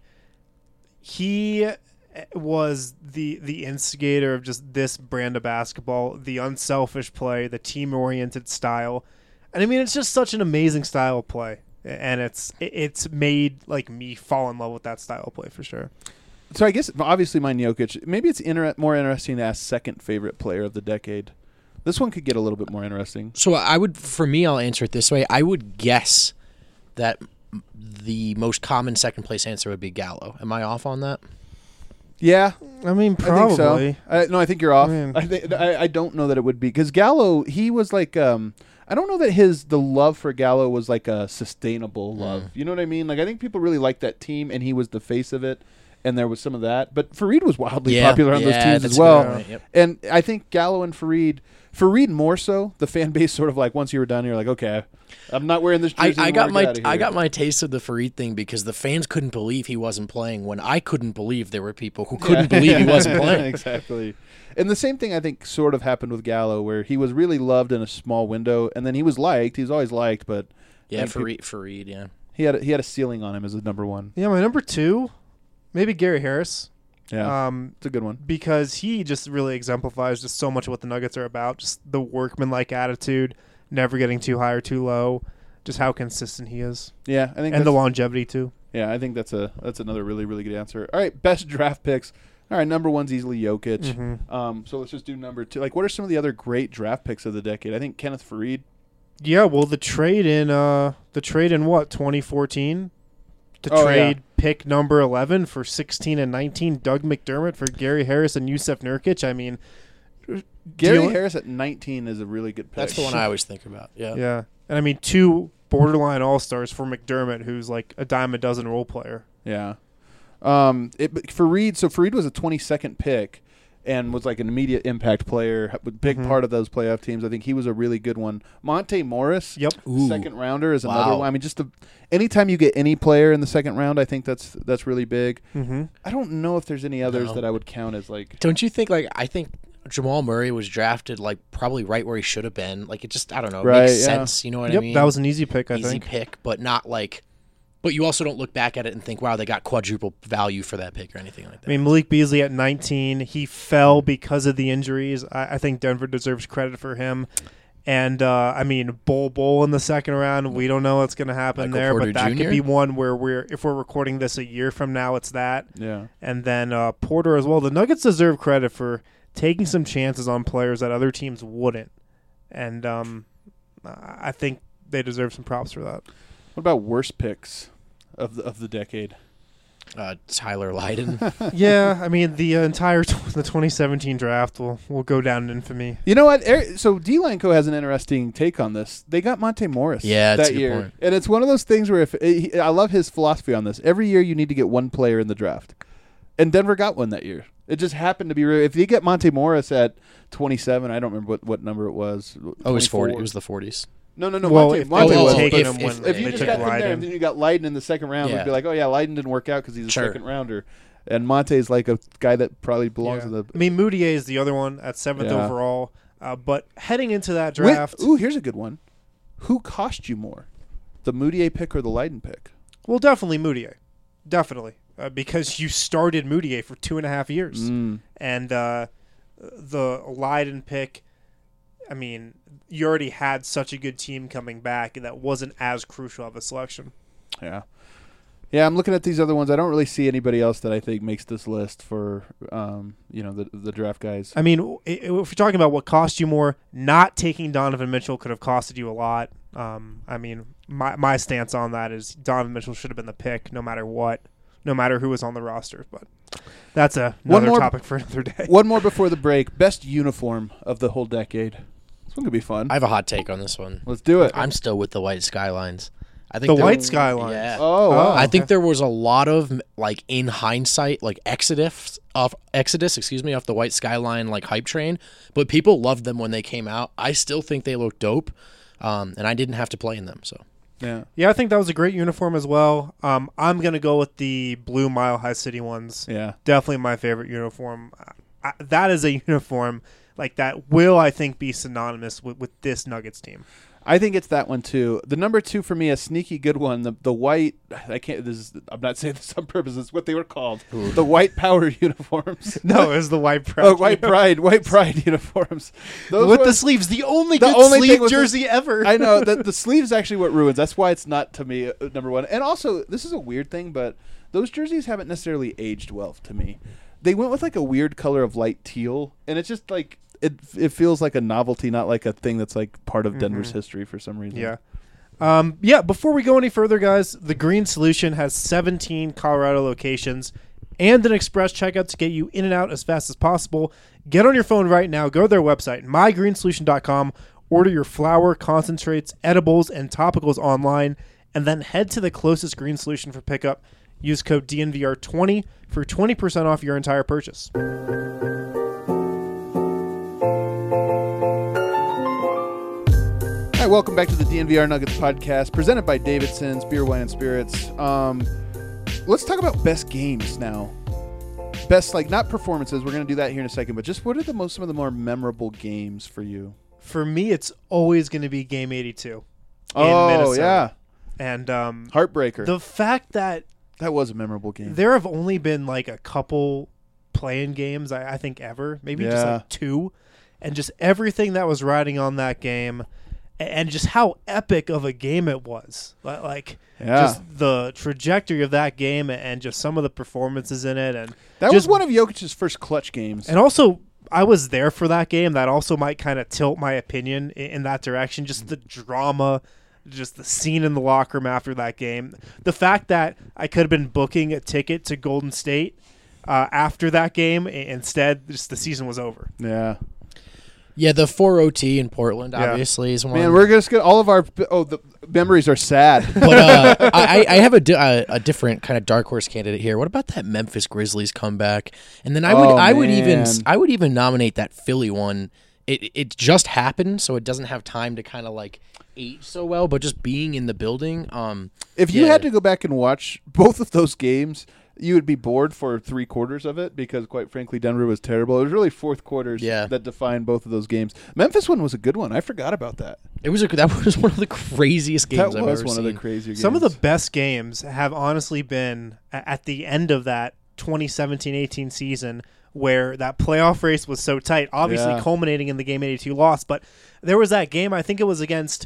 [SPEAKER 1] he was the instigator of just this brand of basketball, the unselfish play, the team-oriented style. And, I mean, it's just such an amazing style of play. And it's made like me fall in love with that style of play for sure.
[SPEAKER 2] So I guess obviously mine Jokic. Maybe it's more interesting to ask second favorite player of the decade. This one could get a little bit more interesting.
[SPEAKER 3] So I'll answer it this way. I would guess that the most common second place answer would be Gallo. Am I off on that?
[SPEAKER 2] Yeah,
[SPEAKER 1] I mean probably.
[SPEAKER 2] I think so. No, I think you're off. I don't know that it would be because Gallo. He was like. I don't know that the love for Gallo was like a sustainable love. You know what I mean? Like I think people really liked that team, and he was the face of it, and there was some of that. But Fareed was wildly popular on those teams as well. Yep. And I think Gallo and Fareed more so. The fan base sort of like once you were done, you're like, okay, I'm not wearing this jersey.
[SPEAKER 3] I got my taste of the Fareed thing because the fans couldn't believe he wasn't playing when I couldn't believe there were people who couldn't believe he wasn't playing.
[SPEAKER 2] Exactly. And the same thing I think sort of happened with Gallo, where he was really loved in a small window, and then he was liked. He was always liked, but
[SPEAKER 3] Fareed, yeah,
[SPEAKER 2] he had a ceiling on him as a number one.
[SPEAKER 1] Yeah, my number two, maybe Gary Harris.
[SPEAKER 2] Yeah, it's a good one
[SPEAKER 1] because he just really exemplifies just so much of what the Nuggets are about. Just the workmanlike attitude, never getting too high or too low, just how consistent he is.
[SPEAKER 2] Yeah, I think,
[SPEAKER 1] and the longevity too.
[SPEAKER 2] Yeah, I think that's another really, really good answer. All right, best draft picks. All right, number one's easily Jokic. Mm-hmm. So let's just do number two. Like, what are some of the other great draft picks of the decade? I think Kenneth Fareed.
[SPEAKER 1] Yeah, well, the trade in what 2014 to trade pick number 11 for 16 and 19, Doug McDermott for Gary Harris and Yusuf Nurkic. I mean,
[SPEAKER 2] Gary Harris at 19 is a really good pick.
[SPEAKER 3] That's the one I always think about. Yeah,
[SPEAKER 1] yeah, and I mean two borderline all-stars for McDermott, who's like a dime a dozen role player.
[SPEAKER 2] Yeah. For Reed, so Reed was a 22nd pick and was like an immediate impact player, big part of those playoff teams. I think he was a really good one. Monte Morris,
[SPEAKER 1] Yep.
[SPEAKER 2] second rounder, is another one. I mean, anytime you get any player in the second round, I think that's really big.
[SPEAKER 1] Mm-hmm.
[SPEAKER 2] I don't know if there's any others that I would count as like.
[SPEAKER 3] Don't you think, I think Jamal Murray was drafted, probably right where he should have been. It just, I don't know,
[SPEAKER 2] Right,
[SPEAKER 3] makes
[SPEAKER 2] yeah.
[SPEAKER 3] sense. You know what I mean?
[SPEAKER 1] That was an easy pick, I
[SPEAKER 3] Easy
[SPEAKER 1] think.
[SPEAKER 3] pick, but not but you also don't look back at it and think, wow, they got quadruple value for that pick or anything like that.
[SPEAKER 1] I mean, Malik Beasley at 19, he fell because of the injuries. I think Denver deserves credit for him. And, I mean, Bol in the second round, we don't know what's going to happen
[SPEAKER 3] Michael
[SPEAKER 1] there,
[SPEAKER 3] Porter
[SPEAKER 1] but that
[SPEAKER 3] Jr.?
[SPEAKER 1] could be one where if we're recording this a year from now, it's that.
[SPEAKER 2] Yeah.
[SPEAKER 1] And then Porter as well. The Nuggets deserve credit for taking some chances on players that other teams wouldn't. And I think they deserve some props for that.
[SPEAKER 2] What about worst picks of the decade?
[SPEAKER 3] Tyler Lydon.
[SPEAKER 1] Yeah, I mean, the entire the 2017 draft will go down in infamy.
[SPEAKER 2] You know what? So D-Line Co. has an interesting take on this. They got Monte Morris
[SPEAKER 3] Yeah, that's
[SPEAKER 2] that
[SPEAKER 3] a good
[SPEAKER 2] year.
[SPEAKER 3] point.
[SPEAKER 2] And it's one of those things where I love his philosophy on this. Every year you need to get one player in the draft. And Denver got one that year. It just happened to be if you get Monte Morris at 27, I don't remember what number it was.
[SPEAKER 3] Oh, it was 40.
[SPEAKER 2] 24.
[SPEAKER 3] It was the 40s.
[SPEAKER 2] No.
[SPEAKER 1] Well,
[SPEAKER 2] Monte
[SPEAKER 1] if
[SPEAKER 2] Monte
[SPEAKER 1] they
[SPEAKER 2] was.
[SPEAKER 1] had taken
[SPEAKER 3] if-
[SPEAKER 1] him
[SPEAKER 3] if-
[SPEAKER 1] when
[SPEAKER 2] If you
[SPEAKER 1] they
[SPEAKER 2] just
[SPEAKER 1] took
[SPEAKER 2] got them there
[SPEAKER 1] Lydon.
[SPEAKER 2] and then you got Lydon in the second round,
[SPEAKER 3] Yeah.
[SPEAKER 2] we'd be like, oh, yeah, Lydon didn't work out because he's a
[SPEAKER 3] Sure.
[SPEAKER 2] second rounder. And Monte's like a guy that probably belongs in the
[SPEAKER 1] I mean, Moutier is the other one at 7th
[SPEAKER 2] Yeah.
[SPEAKER 1] overall. But heading into that draft,
[SPEAKER 2] Here's a good one. Who cost you more, the Moutier pick or the Lydon pick?
[SPEAKER 1] well, definitely Moutier. Definitely. Because you started Moutier for 2.5 years. And the Lydon pick, I mean, you already had such a good team coming back that wasn't as crucial of a selection.
[SPEAKER 2] Yeah. Yeah, I'm looking at these other ones. I don't really see anybody else that I think makes this list for, the draft guys.
[SPEAKER 1] I mean, if you're talking about what cost you more, not taking Donovan Mitchell could have costed you a lot. I mean, my stance on that is Donovan Mitchell should have been the pick no matter what, no matter who was on the roster. But that's another topic for another day.
[SPEAKER 2] One more before the break. Best uniform of the whole decade. This one could be fun.
[SPEAKER 3] I have a hot take on this one.
[SPEAKER 2] Let's do it.
[SPEAKER 3] I'm still with the White Skylines. I think
[SPEAKER 1] The
[SPEAKER 3] there-
[SPEAKER 1] White Skylines.
[SPEAKER 3] Yeah.
[SPEAKER 2] Oh, wow.
[SPEAKER 3] I think there was a lot of in hindsight, exodus off the White Skyline hype train, but people loved them when they came out. I still think they look dope, and I didn't have to play in them. So
[SPEAKER 2] Yeah.
[SPEAKER 1] Yeah, I think that was a great uniform as well. I'm going to go with the blue Mile High City ones.
[SPEAKER 2] Yeah.
[SPEAKER 1] Definitely my favorite uniform. That is a uniform that will, I think, be synonymous with this Nuggets team.
[SPEAKER 2] I think it's that one too. The number 2 for me, a sneaky good one. The white. I'm not saying this on purpose. It's what they were called. The white power uniforms.
[SPEAKER 1] No, it was the White Pride.
[SPEAKER 2] Oh, white pride uniforms. Those
[SPEAKER 1] with the
[SPEAKER 2] ones-
[SPEAKER 1] sleeves. The only
[SPEAKER 2] The
[SPEAKER 1] good
[SPEAKER 2] only thing
[SPEAKER 1] sleeve
[SPEAKER 2] was the-
[SPEAKER 1] jersey ever.
[SPEAKER 2] I know that the sleeve's actually what ruins. That's why it's not to me number 1. And also, this is a weird thing, but those jerseys haven't necessarily aged well to me. They went with a weird color of light teal, and it's just it feels like a novelty, not like a thing that's part of Denver's history for some reason.
[SPEAKER 1] Yeah. Before we go any further, guys, the Green Solution has 17 Colorado locations and an express checkout to get you in and out as fast as possible. Get on your phone right now. Go to their website, mygreensolution.com. Order your flour, concentrates, edibles, and topicals online, and then head to the closest Green Solution for pickup. Use code DNVR20 for 20% off your entire purchase.
[SPEAKER 2] All right, welcome back to the DNVR Nuggets podcast, presented by Davidson's Beer, Wine, and Spirits. Let's talk about best games now. Best, not performances. We're going to do that here in a second, but just what are some of the more memorable games for you?
[SPEAKER 1] For me, it's always going to be Game 82 in
[SPEAKER 2] Oh,
[SPEAKER 1] Minnesota.
[SPEAKER 2] yeah.
[SPEAKER 1] And
[SPEAKER 2] Heartbreaker.
[SPEAKER 1] the fact that
[SPEAKER 2] That was a memorable game.
[SPEAKER 1] there have only been a couple playing games, I think, ever. Maybe
[SPEAKER 2] Yeah.
[SPEAKER 1] just 2. And just everything that was riding on that game and just how epic of a game it was. Just the trajectory of that game and just some of the performances in it. And
[SPEAKER 2] That
[SPEAKER 1] just
[SPEAKER 2] was one of Jokic's first clutch games.
[SPEAKER 1] And also, I was there for that game. That also might kind of tilt my opinion in that direction. Just the drama, just the scene in the locker room after that game. The fact that I could have been booking a ticket to Golden State after that game. Instead, just the season was over.
[SPEAKER 2] Yeah.
[SPEAKER 3] Yeah, the 4 OT in Portland
[SPEAKER 1] Yeah.
[SPEAKER 3] obviously is one.
[SPEAKER 2] Man, we're just gonna all of our the memories are sad.
[SPEAKER 3] But I have a different kind of dark horse candidate here. What about that Memphis Grizzlies comeback? And then I would even nominate that Philly one. It just happened, so it doesn't have time to kind of like age so well. But just being in the building,
[SPEAKER 2] If you had to go back and watch both of those games, you would be bored for 3/4 of it because, quite frankly, Denver was terrible. It was really fourth quarters that defined both of those games. Memphis one was a good one. I forgot about that.
[SPEAKER 3] that was one of the craziest games I've ever seen.
[SPEAKER 2] That was one of the crazier games.
[SPEAKER 1] Some of the best games have honestly been at the end of that 2017-18 season where that playoff race was so tight, obviously culminating in the Game 82 loss. But there was that game, I think it was against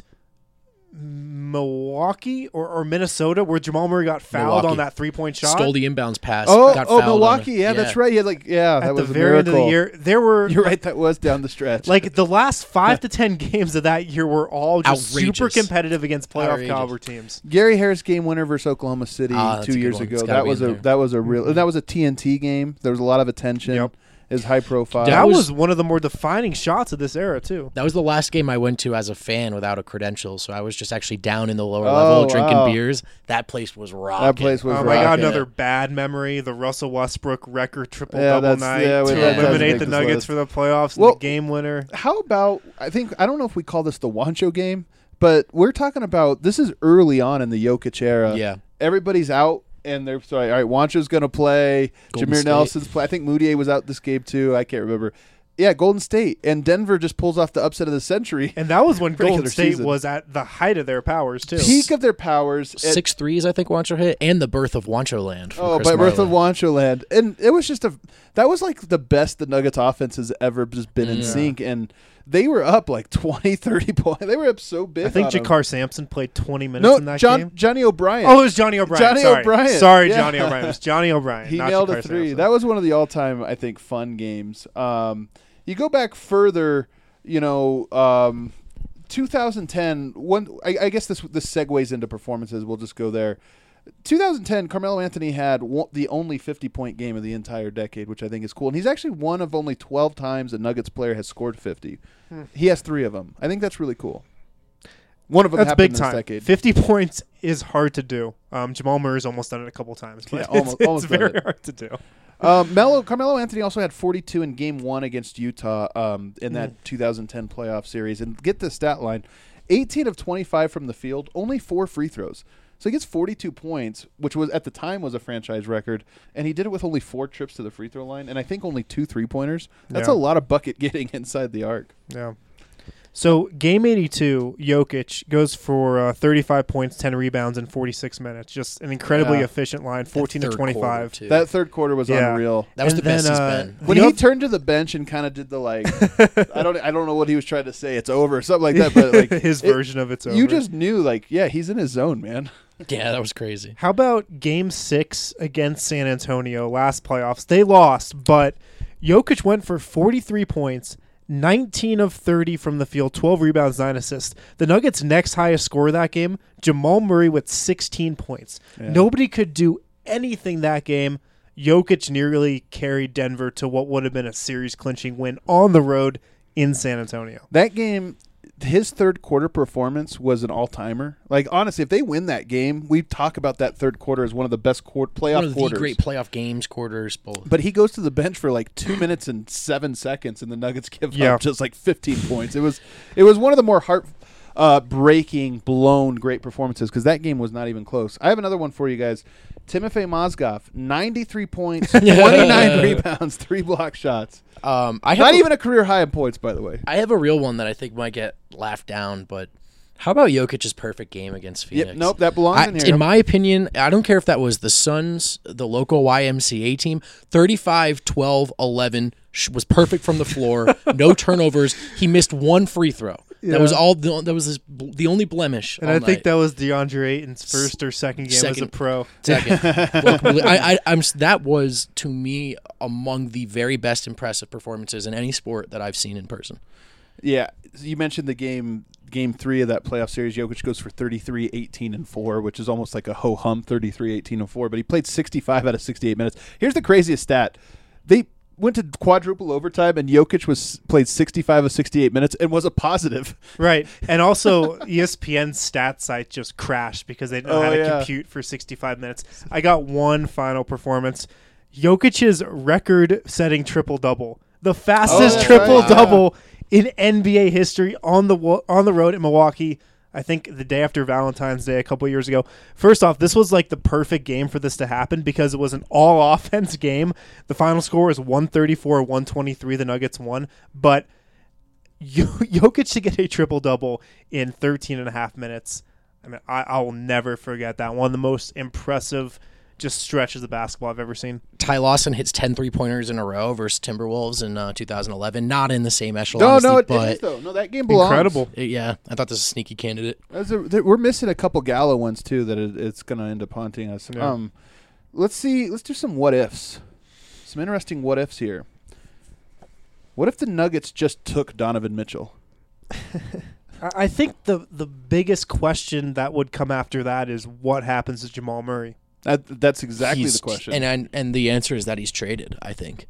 [SPEAKER 1] Milwaukee or Minnesota, where Jamal Murray got fouled on that 3-point shot.
[SPEAKER 3] Stole the inbounds pass.
[SPEAKER 2] Oh,
[SPEAKER 3] got fouled
[SPEAKER 2] Milwaukee. That's right. Yeah, that
[SPEAKER 1] at
[SPEAKER 2] was
[SPEAKER 1] the very end of the year. There were
[SPEAKER 2] You're right. That was down the stretch.
[SPEAKER 1] like the last 5 to 10 games of that year were all just
[SPEAKER 3] Outrageous.
[SPEAKER 1] super competitive against playoff
[SPEAKER 3] Outrageous.
[SPEAKER 1] caliber teams.
[SPEAKER 2] Gary Harris game winner versus Oklahoma City
[SPEAKER 3] that's
[SPEAKER 2] 2
[SPEAKER 3] a good
[SPEAKER 2] years
[SPEAKER 3] one.
[SPEAKER 2] ago.
[SPEAKER 3] It's gotta
[SPEAKER 2] That
[SPEAKER 3] be
[SPEAKER 2] was
[SPEAKER 3] in
[SPEAKER 2] a
[SPEAKER 3] there.
[SPEAKER 2] that was a real that was a TNT game. There was a lot of attention.
[SPEAKER 1] Yep.
[SPEAKER 2] It was high profile.
[SPEAKER 1] That was one of the more defining shots of this era too.
[SPEAKER 3] That was the last game I went to as a fan without a credential, so I was just actually down in the lower level drinking beers. That place was rocking.
[SPEAKER 2] That place was
[SPEAKER 1] Oh my god,
[SPEAKER 2] rocking.
[SPEAKER 1] another bad memory. The Russell Westbrook record triple-double
[SPEAKER 2] that's-
[SPEAKER 1] night
[SPEAKER 2] yeah,
[SPEAKER 1] to
[SPEAKER 2] that does
[SPEAKER 1] eliminate
[SPEAKER 2] make
[SPEAKER 1] the
[SPEAKER 2] this
[SPEAKER 1] Nuggets
[SPEAKER 2] list.
[SPEAKER 1] for the playoffs
[SPEAKER 2] Well,
[SPEAKER 1] and the game winner.
[SPEAKER 2] How about I don't know if we call this the Wancho game, but we're talking about this is early on in the Jokic era.
[SPEAKER 3] Yeah.
[SPEAKER 2] Everybody's out and they're sorry, all right, Wancho's gonna play,
[SPEAKER 3] Golden
[SPEAKER 2] Jameer
[SPEAKER 3] State.
[SPEAKER 2] Nelson's play. I think Moutier was out this game too. I can't remember. Yeah, Golden State. And Denver just pulls off the upset of the century.
[SPEAKER 1] And that was when
[SPEAKER 2] Regular
[SPEAKER 1] Golden State
[SPEAKER 2] season.
[SPEAKER 1] was at the height of their powers too.
[SPEAKER 2] Peak of their powers.
[SPEAKER 3] 6 threes, I think Wancho hit, and the birth of Wancho Land.
[SPEAKER 2] Oh, by birth of Wancho Land. And it was just that was like the best the Nuggets offense has ever just been in sync. And they were up like 20, 30 points. They were up so big.
[SPEAKER 1] I think
[SPEAKER 2] on them.
[SPEAKER 1] Jakar Sampson played 20 minutes in that game.
[SPEAKER 2] Johnny O'Brien.
[SPEAKER 1] Oh, it was Johnny O'Brien.
[SPEAKER 2] Johnny
[SPEAKER 1] Sorry.
[SPEAKER 2] O'Brien.
[SPEAKER 1] Sorry,
[SPEAKER 2] Yeah.
[SPEAKER 1] Johnny O'Brien. It was Johnny O'Brien.
[SPEAKER 2] He
[SPEAKER 1] not
[SPEAKER 2] nailed
[SPEAKER 1] Jakar
[SPEAKER 2] a three.
[SPEAKER 1] Sampson.
[SPEAKER 2] That was one of the all-time, I think, fun games. You go back further, 2010. I guess this segues into performances. We'll just go there. 2010, Carmelo Anthony had the only 50-point game of the entire decade, which I think is cool. And he's actually one of only 12 times a Nuggets player has scored 50. He has 3 of them. I think that's really cool. One of them
[SPEAKER 1] That's
[SPEAKER 2] happened
[SPEAKER 1] big
[SPEAKER 2] in this
[SPEAKER 1] time.
[SPEAKER 2] decade.
[SPEAKER 1] 50 points is hard to do. Jamal Murray's almost done it a couple times, but
[SPEAKER 2] Yeah, almost
[SPEAKER 1] it's
[SPEAKER 2] done
[SPEAKER 1] very
[SPEAKER 2] it.
[SPEAKER 1] hard to do.
[SPEAKER 2] Carmelo Anthony also had 42 in Game 1 against Utah in that 2010 playoff series. And get the stat line, 18 of 25 from the field, only 4 free throws. So he gets 42 points, which was at the time was a franchise record, and he did it with only 4 trips to the free throw line, and I think only 2 3-pointers. That's
[SPEAKER 1] Yeah.
[SPEAKER 2] a lot of bucket getting inside the arc.
[SPEAKER 1] Yeah. So game 82, Jokic goes for 35 points, 10 rebounds in 46 minutes. Just an incredibly efficient line, 14 to
[SPEAKER 3] Third
[SPEAKER 1] 25.
[SPEAKER 3] quarter, too.
[SPEAKER 2] That third quarter was
[SPEAKER 1] Yeah.
[SPEAKER 2] unreal.
[SPEAKER 3] That was
[SPEAKER 1] And
[SPEAKER 3] the best
[SPEAKER 1] then,
[SPEAKER 3] he's been.
[SPEAKER 2] When
[SPEAKER 1] The
[SPEAKER 2] he
[SPEAKER 1] oth-
[SPEAKER 2] turned to the bench and kind of did the I don't know what he was trying to say. It's over, something like that. But like
[SPEAKER 1] His version of it's over.
[SPEAKER 2] you just knew, he's in his zone, man.
[SPEAKER 3] Yeah, that was crazy.
[SPEAKER 1] How about Game 6 against San Antonio last playoffs? They lost, but Jokic went for 43 points, 19 of 30 from the field, 12 rebounds, 9 assists. The Nuggets' next highest score that game, Jamal Murray with 16 points.
[SPEAKER 2] Yeah.
[SPEAKER 1] Nobody could do anything that game. Jokic nearly carried Denver to what would have been a series-clinching win on the road in San Antonio.
[SPEAKER 2] That game, his third quarter performance was an all-timer. Like, honestly, if they win that game, we talk about that third quarter as one of the best playoff
[SPEAKER 3] One of the
[SPEAKER 2] quarters.
[SPEAKER 3] great playoff games, quarters, both.
[SPEAKER 2] But he goes to the bench for 2 minutes and 7 seconds, and the Nuggets give up just 15 points. It was one of the more breaking, blown great performances because that game was not even close. I have another one for you guys. Timofey Mozgov, 93 points, 29 rebounds, 3 block shots. Not even a career high in points, by the way.
[SPEAKER 3] I have a real one that I think might get laughed down, but how about Jokic's perfect game against Phoenix?
[SPEAKER 2] Yep, nope, that belongs in here.
[SPEAKER 3] In my opinion, I don't care if that was the Suns, the local YMCA team, 35, 12, 11 was perfect from the floor, no turnovers. He missed 1 free throw. That was all. That was the only blemish.
[SPEAKER 1] And I think that was DeAndre Ayton's first or second game as a pro.
[SPEAKER 3] Second. That was, to me, among the very best impressive performances in any sport that I've seen in person.
[SPEAKER 2] Yeah, you mentioned the game 3 of that playoff series. Jokic goes for 33, 18, and 4, which is almost like a ho-hum 33, 18, and 4. But he played 65 out of 68 minutes. Here's the craziest stat. went to quadruple overtime, and Jokic played 65 of 68 minutes and was a positive.
[SPEAKER 1] Right. And also, ESPN's stat site just crashed because they didn't know how to compute for 65 minutes. I got one final performance. Jokic's record-setting triple-double. The fastest triple-double in NBA history on the road in Milwaukee. I think the day after Valentine's Day a couple of years ago. First off, this was like the perfect game for this to happen because it was an all-offense game. The final score was 134-123. The Nuggets won. But Jokic to get a triple-double in 13 and a half minutes. I mean, I will never forget that. One of the most impressive just stretches of basketball I've ever seen.
[SPEAKER 3] Ty Lawson hits 10 3-pointers in a row versus Timberwolves in 2011. Not in the same echelon.
[SPEAKER 2] It is, though. No, that game belongs.
[SPEAKER 1] Incredible.
[SPEAKER 3] Yeah, I thought this was a sneaky candidate.
[SPEAKER 2] We're missing a couple Gallo ones, too, that it's going to end up haunting us. Yeah. Let's do some what-ifs. Some interesting what-ifs here. What if the Nuggets just took Donovan Mitchell?
[SPEAKER 1] I think the biggest question that would come after that is what happens to Jamal Murray.
[SPEAKER 2] That's exactly the question.
[SPEAKER 3] And the answer is that he's traded, I think.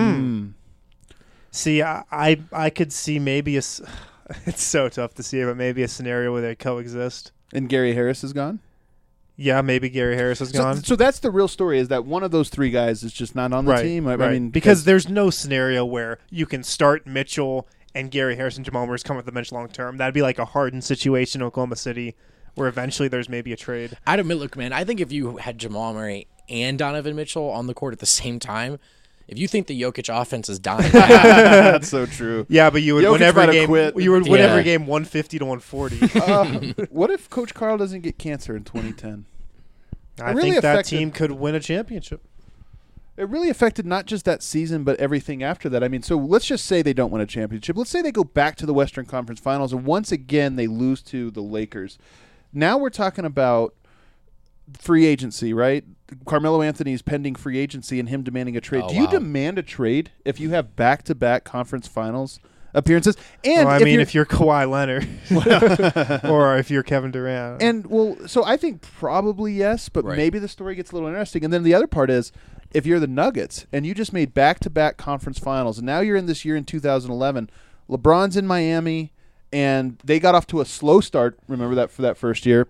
[SPEAKER 1] See, I could see maybe it's so tough to see, but maybe a scenario where they coexist.
[SPEAKER 2] And Gary Harris is gone?
[SPEAKER 1] Yeah, maybe Gary Harris is gone.
[SPEAKER 2] So that's the real story, is that one of those three guys is just not on the team?
[SPEAKER 1] I mean, because there's no scenario where you can start Mitchell and Gary Harris and Jamal Murray's come off the bench long term. That'd be like a Harden situation in Oklahoma City, where eventually there's maybe a trade.
[SPEAKER 3] Look, man, I think if you had Jamal Murray and Donovan Mitchell on the court at the same time, if you think the Jokic offense is dying,
[SPEAKER 2] that's so true.
[SPEAKER 1] Yeah, but you would win every game. You would win every game 150 to 140.
[SPEAKER 2] What if Coach Carl doesn't get cancer in 2010?
[SPEAKER 1] I think that team could win a championship.
[SPEAKER 2] It really affected not just that season, but everything after that. I mean, so let's just say they don't win a championship. Let's say they go back to the Western Conference Finals, and once again they lose to the Lakers. Now we're talking about free agency, right? Carmelo Anthony's pending free agency and him demanding a trade. Do you demand a trade if you have back-to-back conference finals appearances? And
[SPEAKER 1] if you're Kawhi Leonard or if you're Kevin Durant.
[SPEAKER 2] So I think probably yes, but maybe the story gets a little interesting. And then the other part is, if you're the Nuggets and you just made back-to-back conference finals, and now you're in this year in 2011, LeBron's in Miami, and they got off to a slow start, remember that, for that first year.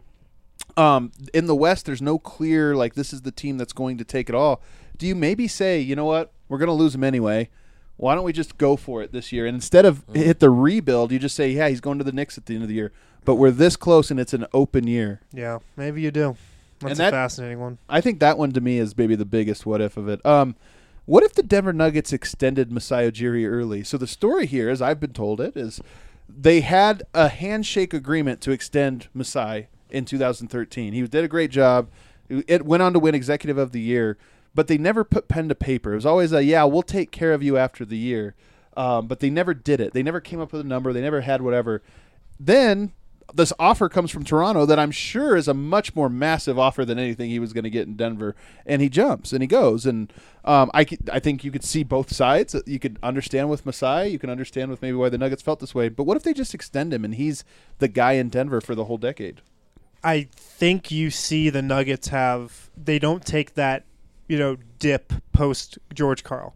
[SPEAKER 2] In the West, there's no clear, this is the team that's going to take it all. Do you maybe say, you know what, we're going to lose him anyway. Why don't we just go for it this year? And instead of hit the rebuild, you just say, yeah, he's going to the Knicks at the end of the year. But we're this close, and it's an open year.
[SPEAKER 1] Yeah, maybe you do. That's a fascinating one.
[SPEAKER 2] I think that one, to me, is maybe the biggest what-if of it. What if the Denver Nuggets extended Masai Ujiri early? So the story here, as I've been told it, is they had a handshake agreement to extend Masai in 2013. He did a great job. It went on to win Executive of the Year, but they never put pen to paper. It was always we'll take care of you after the year. But they never did it. They never came up with a number. They never had whatever. Then this offer comes from Toronto that I'm sure is a much more massive offer than anything he was going to get in Denver. And he jumps and he goes. And I think you could see both sides. You could understand with Masai. You can understand with maybe why the Nuggets felt this way. But what if they just extend him and he's the guy in Denver for the whole decade?
[SPEAKER 1] I think you see the Nuggets they don't take that, dip post George Karl,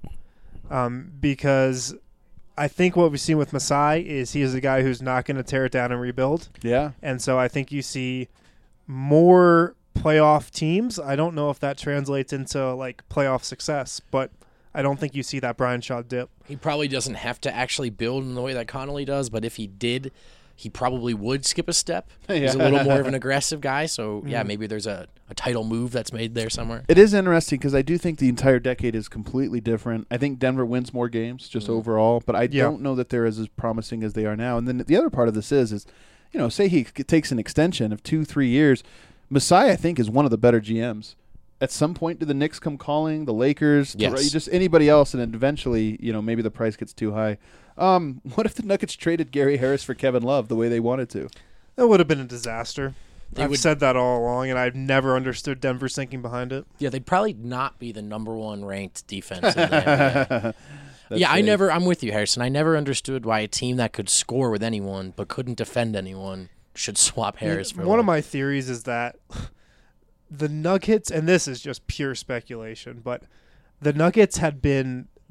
[SPEAKER 1] because I think what we've seen with Masai is he is a guy who's not going to tear it down and rebuild.
[SPEAKER 2] Yeah.
[SPEAKER 1] And so I think you see more playoff teams. I don't know if that translates into playoff success, but I don't think you see that Brian Shaw dip.
[SPEAKER 3] He probably doesn't have to actually build in the way that Connolly does, but if he did, he probably would skip a step. He's a little more of an aggressive guy, so maybe there's a title move that's made there somewhere.
[SPEAKER 2] It is interesting because I do think the entire decade is completely different. I think Denver wins more games just overall, but I don't know that they're as promising as they are now. And then the other part of this is say he takes an extension of 2-3 years. Masai, I think, is one of the better GMs. At some point, do the Knicks come calling, the Lakers, just anybody else, and then eventually, maybe the price gets too high. What if the Nuggets traded Gary Harris for Kevin Love the way they wanted to?
[SPEAKER 1] That would have been a disaster. I've said that all along, and I've never understood Denver's thinking behind it.
[SPEAKER 3] Yeah, they'd probably not be the number one ranked defense in the NBA. I'm with you, Harrison. I never understood why a team that could score with anyone but couldn't defend anyone should swap Harris for
[SPEAKER 1] one of my theories is that the Nuggets, and this is just pure speculation, but the Nuggets had been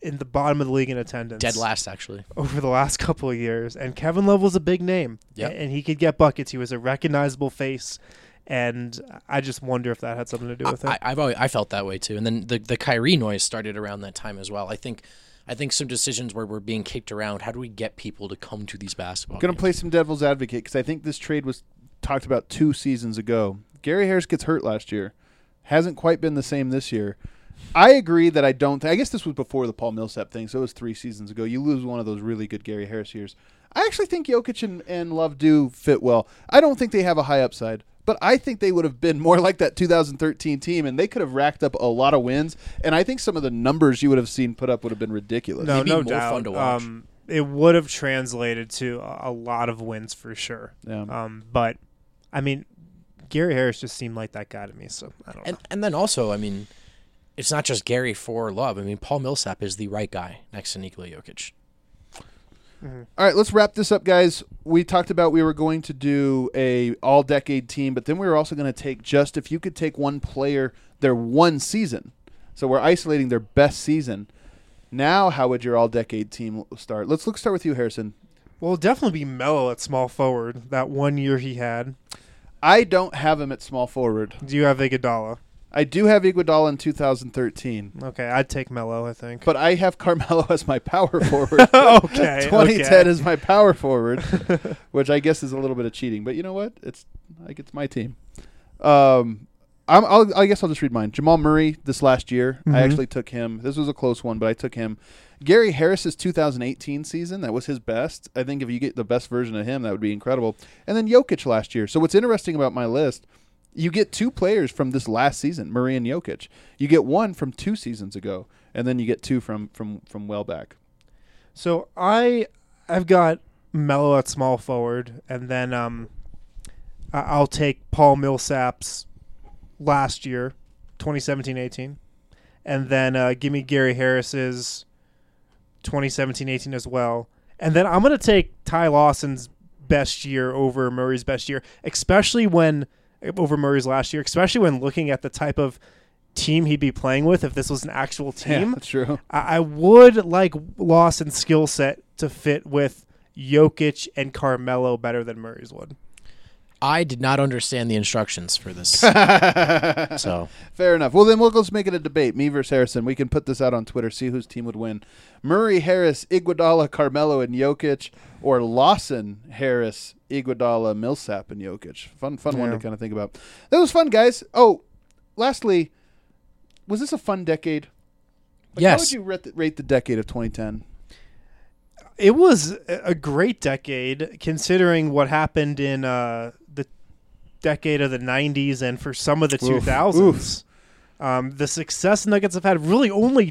[SPEAKER 1] in the bottom of the league in attendance.
[SPEAKER 3] Dead last, actually.
[SPEAKER 1] Over the last couple of years. And Kevin Love was a big name.
[SPEAKER 3] Yep.
[SPEAKER 1] And he could get buckets. He was a recognizable face. And I just wonder if that had something to do with it.
[SPEAKER 3] I felt that way too. And then the Kyrie noise started around that time as well. I think some decisions where we're being kicked around. How do we get people to come to these basketball
[SPEAKER 2] Going to
[SPEAKER 3] games?
[SPEAKER 2] play some devil's advocate because I think this trade was talked about 2 seasons ago. Gary Harris gets hurt last year. Hasn't quite been the same this year. I agree that I guess this was before the Paul Millsap thing, so it was 3 seasons ago. You lose one of those really good Gary Harris years. I actually think Jokic and Love do fit well. I don't think they have a high upside, but I think they would have been more like that 2013 team, and they could have racked up a lot of wins. And I think some of the numbers you would have seen put up would have been ridiculous.
[SPEAKER 1] No,
[SPEAKER 3] Maybe
[SPEAKER 1] no
[SPEAKER 3] more
[SPEAKER 1] doubt.
[SPEAKER 3] fun to watch.
[SPEAKER 1] It would have translated to a lot of wins for sure.
[SPEAKER 2] Yeah.
[SPEAKER 1] But, I mean, Gary Harris just seemed like that guy to me, so I don't know.
[SPEAKER 3] And then also, I mean, it's not just Gary for Love. I mean, Paul Millsap is the right guy next to Nikola Jokic.
[SPEAKER 2] All right, let's wrap this up, guys. We talked about we were going to do a all-decade team, but then we were also going to take just if you could take one player, their one season. So we're isolating their best season. Now, how would your all-decade team start? Let's start with you, Harrison.
[SPEAKER 1] Well, it'll definitely be Melo at small forward, that 1 year he had.
[SPEAKER 2] I don't have him at small forward.
[SPEAKER 1] Do you have Iguodala?
[SPEAKER 2] I do have Iguodala in 2013,
[SPEAKER 1] Okay, I'd take Melo, I think.
[SPEAKER 2] but I have Carmelo as my power forward.
[SPEAKER 1] Okay.
[SPEAKER 2] 2010 is my power forward, which I guess is a little bit of cheating. But you know what? It's my team. I guess I'll just read mine. Jamal Murray this last year. I actually took him. This was a close one, but I took him. Gary Harris's 2018 season, that was his best. I think if you get the best version of him, that would be incredible. And then Jokic last year. So what's interesting about my list, you get 2 players from this last season, Murray and Jokic. You get 1 from 2 seasons ago, and then you get 2 from well back.
[SPEAKER 1] So I've got Melo at small forward, and then I'll take Paul Millsap's last year, 2017-18, and then give me Gary Harris's 2017-18 as well. And then I'm going to take Ty Lawson's best year over Murray's best year, over Murray's last year, especially when looking at the type of team he'd be playing with if this was an actual team.
[SPEAKER 2] Yeah, that's true.
[SPEAKER 1] I would like Lawson's skill set to fit with Jokic and Carmelo better than Murray's would.
[SPEAKER 3] I did not understand the instructions for this. So
[SPEAKER 2] Fair enough. Well, then let's make it a debate. Me versus Harrison. We can put this out on Twitter, see whose team would win. Murray, Harris, Iguodala, Carmelo, and Jokic, or Lawson, Harris, Iguodala, Millsap, and Jokic. Fun one to kind of think about. That was fun, guys. Oh, lastly, was this a fun decade?
[SPEAKER 3] yes.
[SPEAKER 2] How would you rate the decade of 2010?
[SPEAKER 1] It was a great decade considering what happened in the decade of the 90s and for some of the 2000s. The success Nuggets have had, really only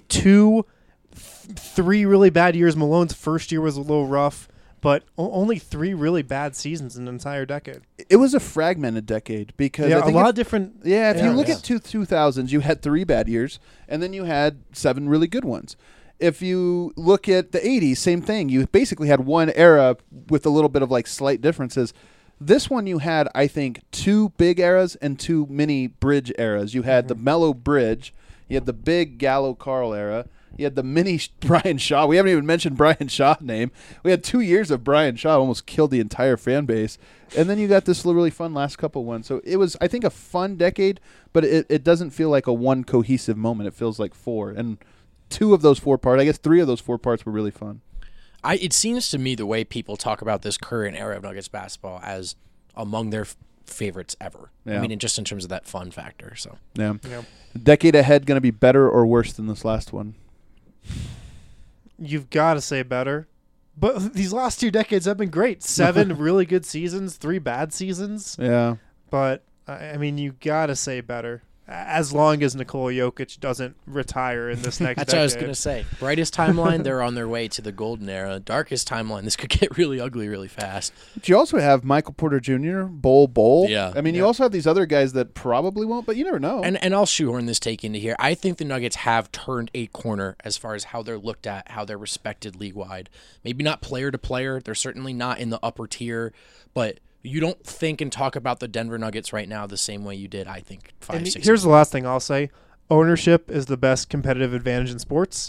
[SPEAKER 1] 3 really bad years. Malone's first year was a little rough, but only 3 really bad seasons in an entire decade.
[SPEAKER 2] It was a fragmented decade because I think
[SPEAKER 1] a lot of different.
[SPEAKER 2] Yeah, if you look
[SPEAKER 1] yeah.
[SPEAKER 2] at 2000s, you had 3 bad years, and then you had 7 really good ones. If you look at the 80s, same thing. You basically had one era with a little bit of like slight differences. This one you had, I think, 2 big eras and 2 mini bridge eras. You had the Melo bridge. You had the big Gallo-Carl era. You had the mini Brian Shaw. We haven't even mentioned Brian Shaw's name. We had 2 years of Brian Shaw, almost killed the entire fan base. And then you got this really fun last couple ones. So it was, I think, a fun decade, but it doesn't feel like a one cohesive moment. It feels like 4. And 2 of those 4 parts, I guess 3 of those 4 parts were really fun.
[SPEAKER 3] It seems to me the way people talk about this current era of Nuggets basketball as among their favorites ever.
[SPEAKER 2] Yeah.
[SPEAKER 3] I mean, just in terms of that fun factor. So
[SPEAKER 2] Yeah. Decade ahead going to be better or worse than this last one?
[SPEAKER 1] You've got to say better. But these last 2 decades have been great. 7 really good seasons, 3 bad seasons.
[SPEAKER 2] Yeah.
[SPEAKER 1] But, I mean, you got to say better. As long as Nikola Jokic doesn't retire in this next
[SPEAKER 3] that's
[SPEAKER 1] decade.
[SPEAKER 3] what I was going to say. Brightest timeline, they're on their way to the golden era. Darkest timeline, this could get really ugly really fast.
[SPEAKER 2] But you also have Michael Porter Jr., Bol.
[SPEAKER 3] Yeah.
[SPEAKER 2] I mean, you also have these other guys that probably won't, but you never know.
[SPEAKER 3] And I'll shoehorn this take into here. I think the Nuggets have turned a corner as far as how they're looked at, how they're respected league-wide. Maybe not player to player. They're certainly not in the upper tier, but you don't think and talk about the Denver Nuggets right now the same way you did, I think, 5-6
[SPEAKER 1] And
[SPEAKER 3] years
[SPEAKER 1] here's
[SPEAKER 3] ago.
[SPEAKER 1] the last thing I'll say. Ownership is the best competitive advantage in sports,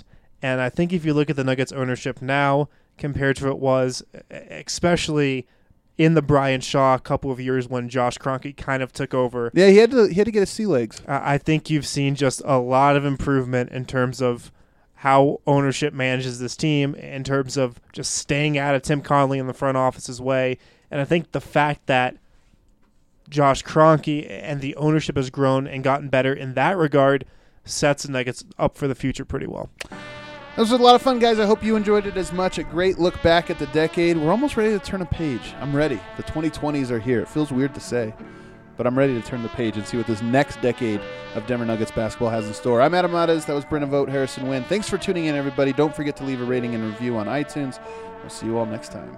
[SPEAKER 1] And I think if you look at the Nuggets ownership now compared to what it was, especially in the Brian Shaw couple of years when Josh Kroenke kind of took over.
[SPEAKER 2] Yeah, he had to get his sea legs.
[SPEAKER 1] I think you've seen just a lot of improvement in terms of how ownership manages this team, in terms of just staying out of Tim Connelly in the front office's way. And I think the fact that Josh Kroenke and the ownership has grown and gotten better in that regard sets the Nuggets up for the future pretty well.
[SPEAKER 2] This was a lot of fun, guys. I hope you enjoyed it as much. A great look back at the decade. We're almost ready to turn a page. I'm ready. The 2020s are here. It feels weird to say, but I'm ready to turn the page and see what this next decade of Denver Nuggets basketball has in store. I'm Adam Mares. That was Brennan Vogt, Harrison Wynn. Thanks for tuning in, everybody. Don't forget to leave a rating and review on iTunes. We'll see you all next time.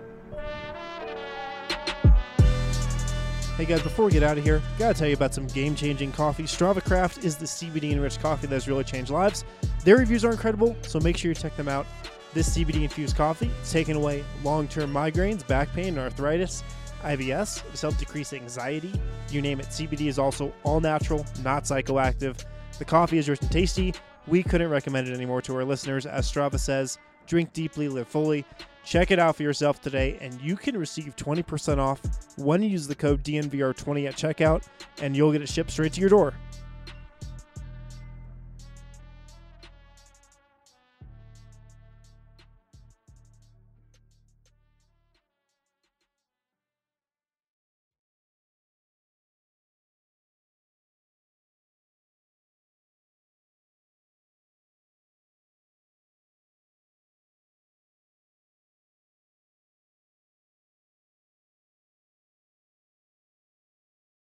[SPEAKER 1] Hey guys, before we get out of here, gotta tell you about some game-changing coffee. Strava Craft is the CBD-enriched coffee that has really changed lives. Their reviews are incredible, so make sure you check them out. This CBD-infused coffee is taking away long-term migraines, back pain, arthritis, IBS. It's helped decrease anxiety. You name it. CBD is also all-natural, not psychoactive. The coffee is rich and tasty. We couldn't recommend it anymore to our listeners. As Strava says, drink deeply, live fully. Check it out for yourself today, and you can receive 20% off when you use the code DNVR20 at checkout, and you'll get it shipped straight to your door.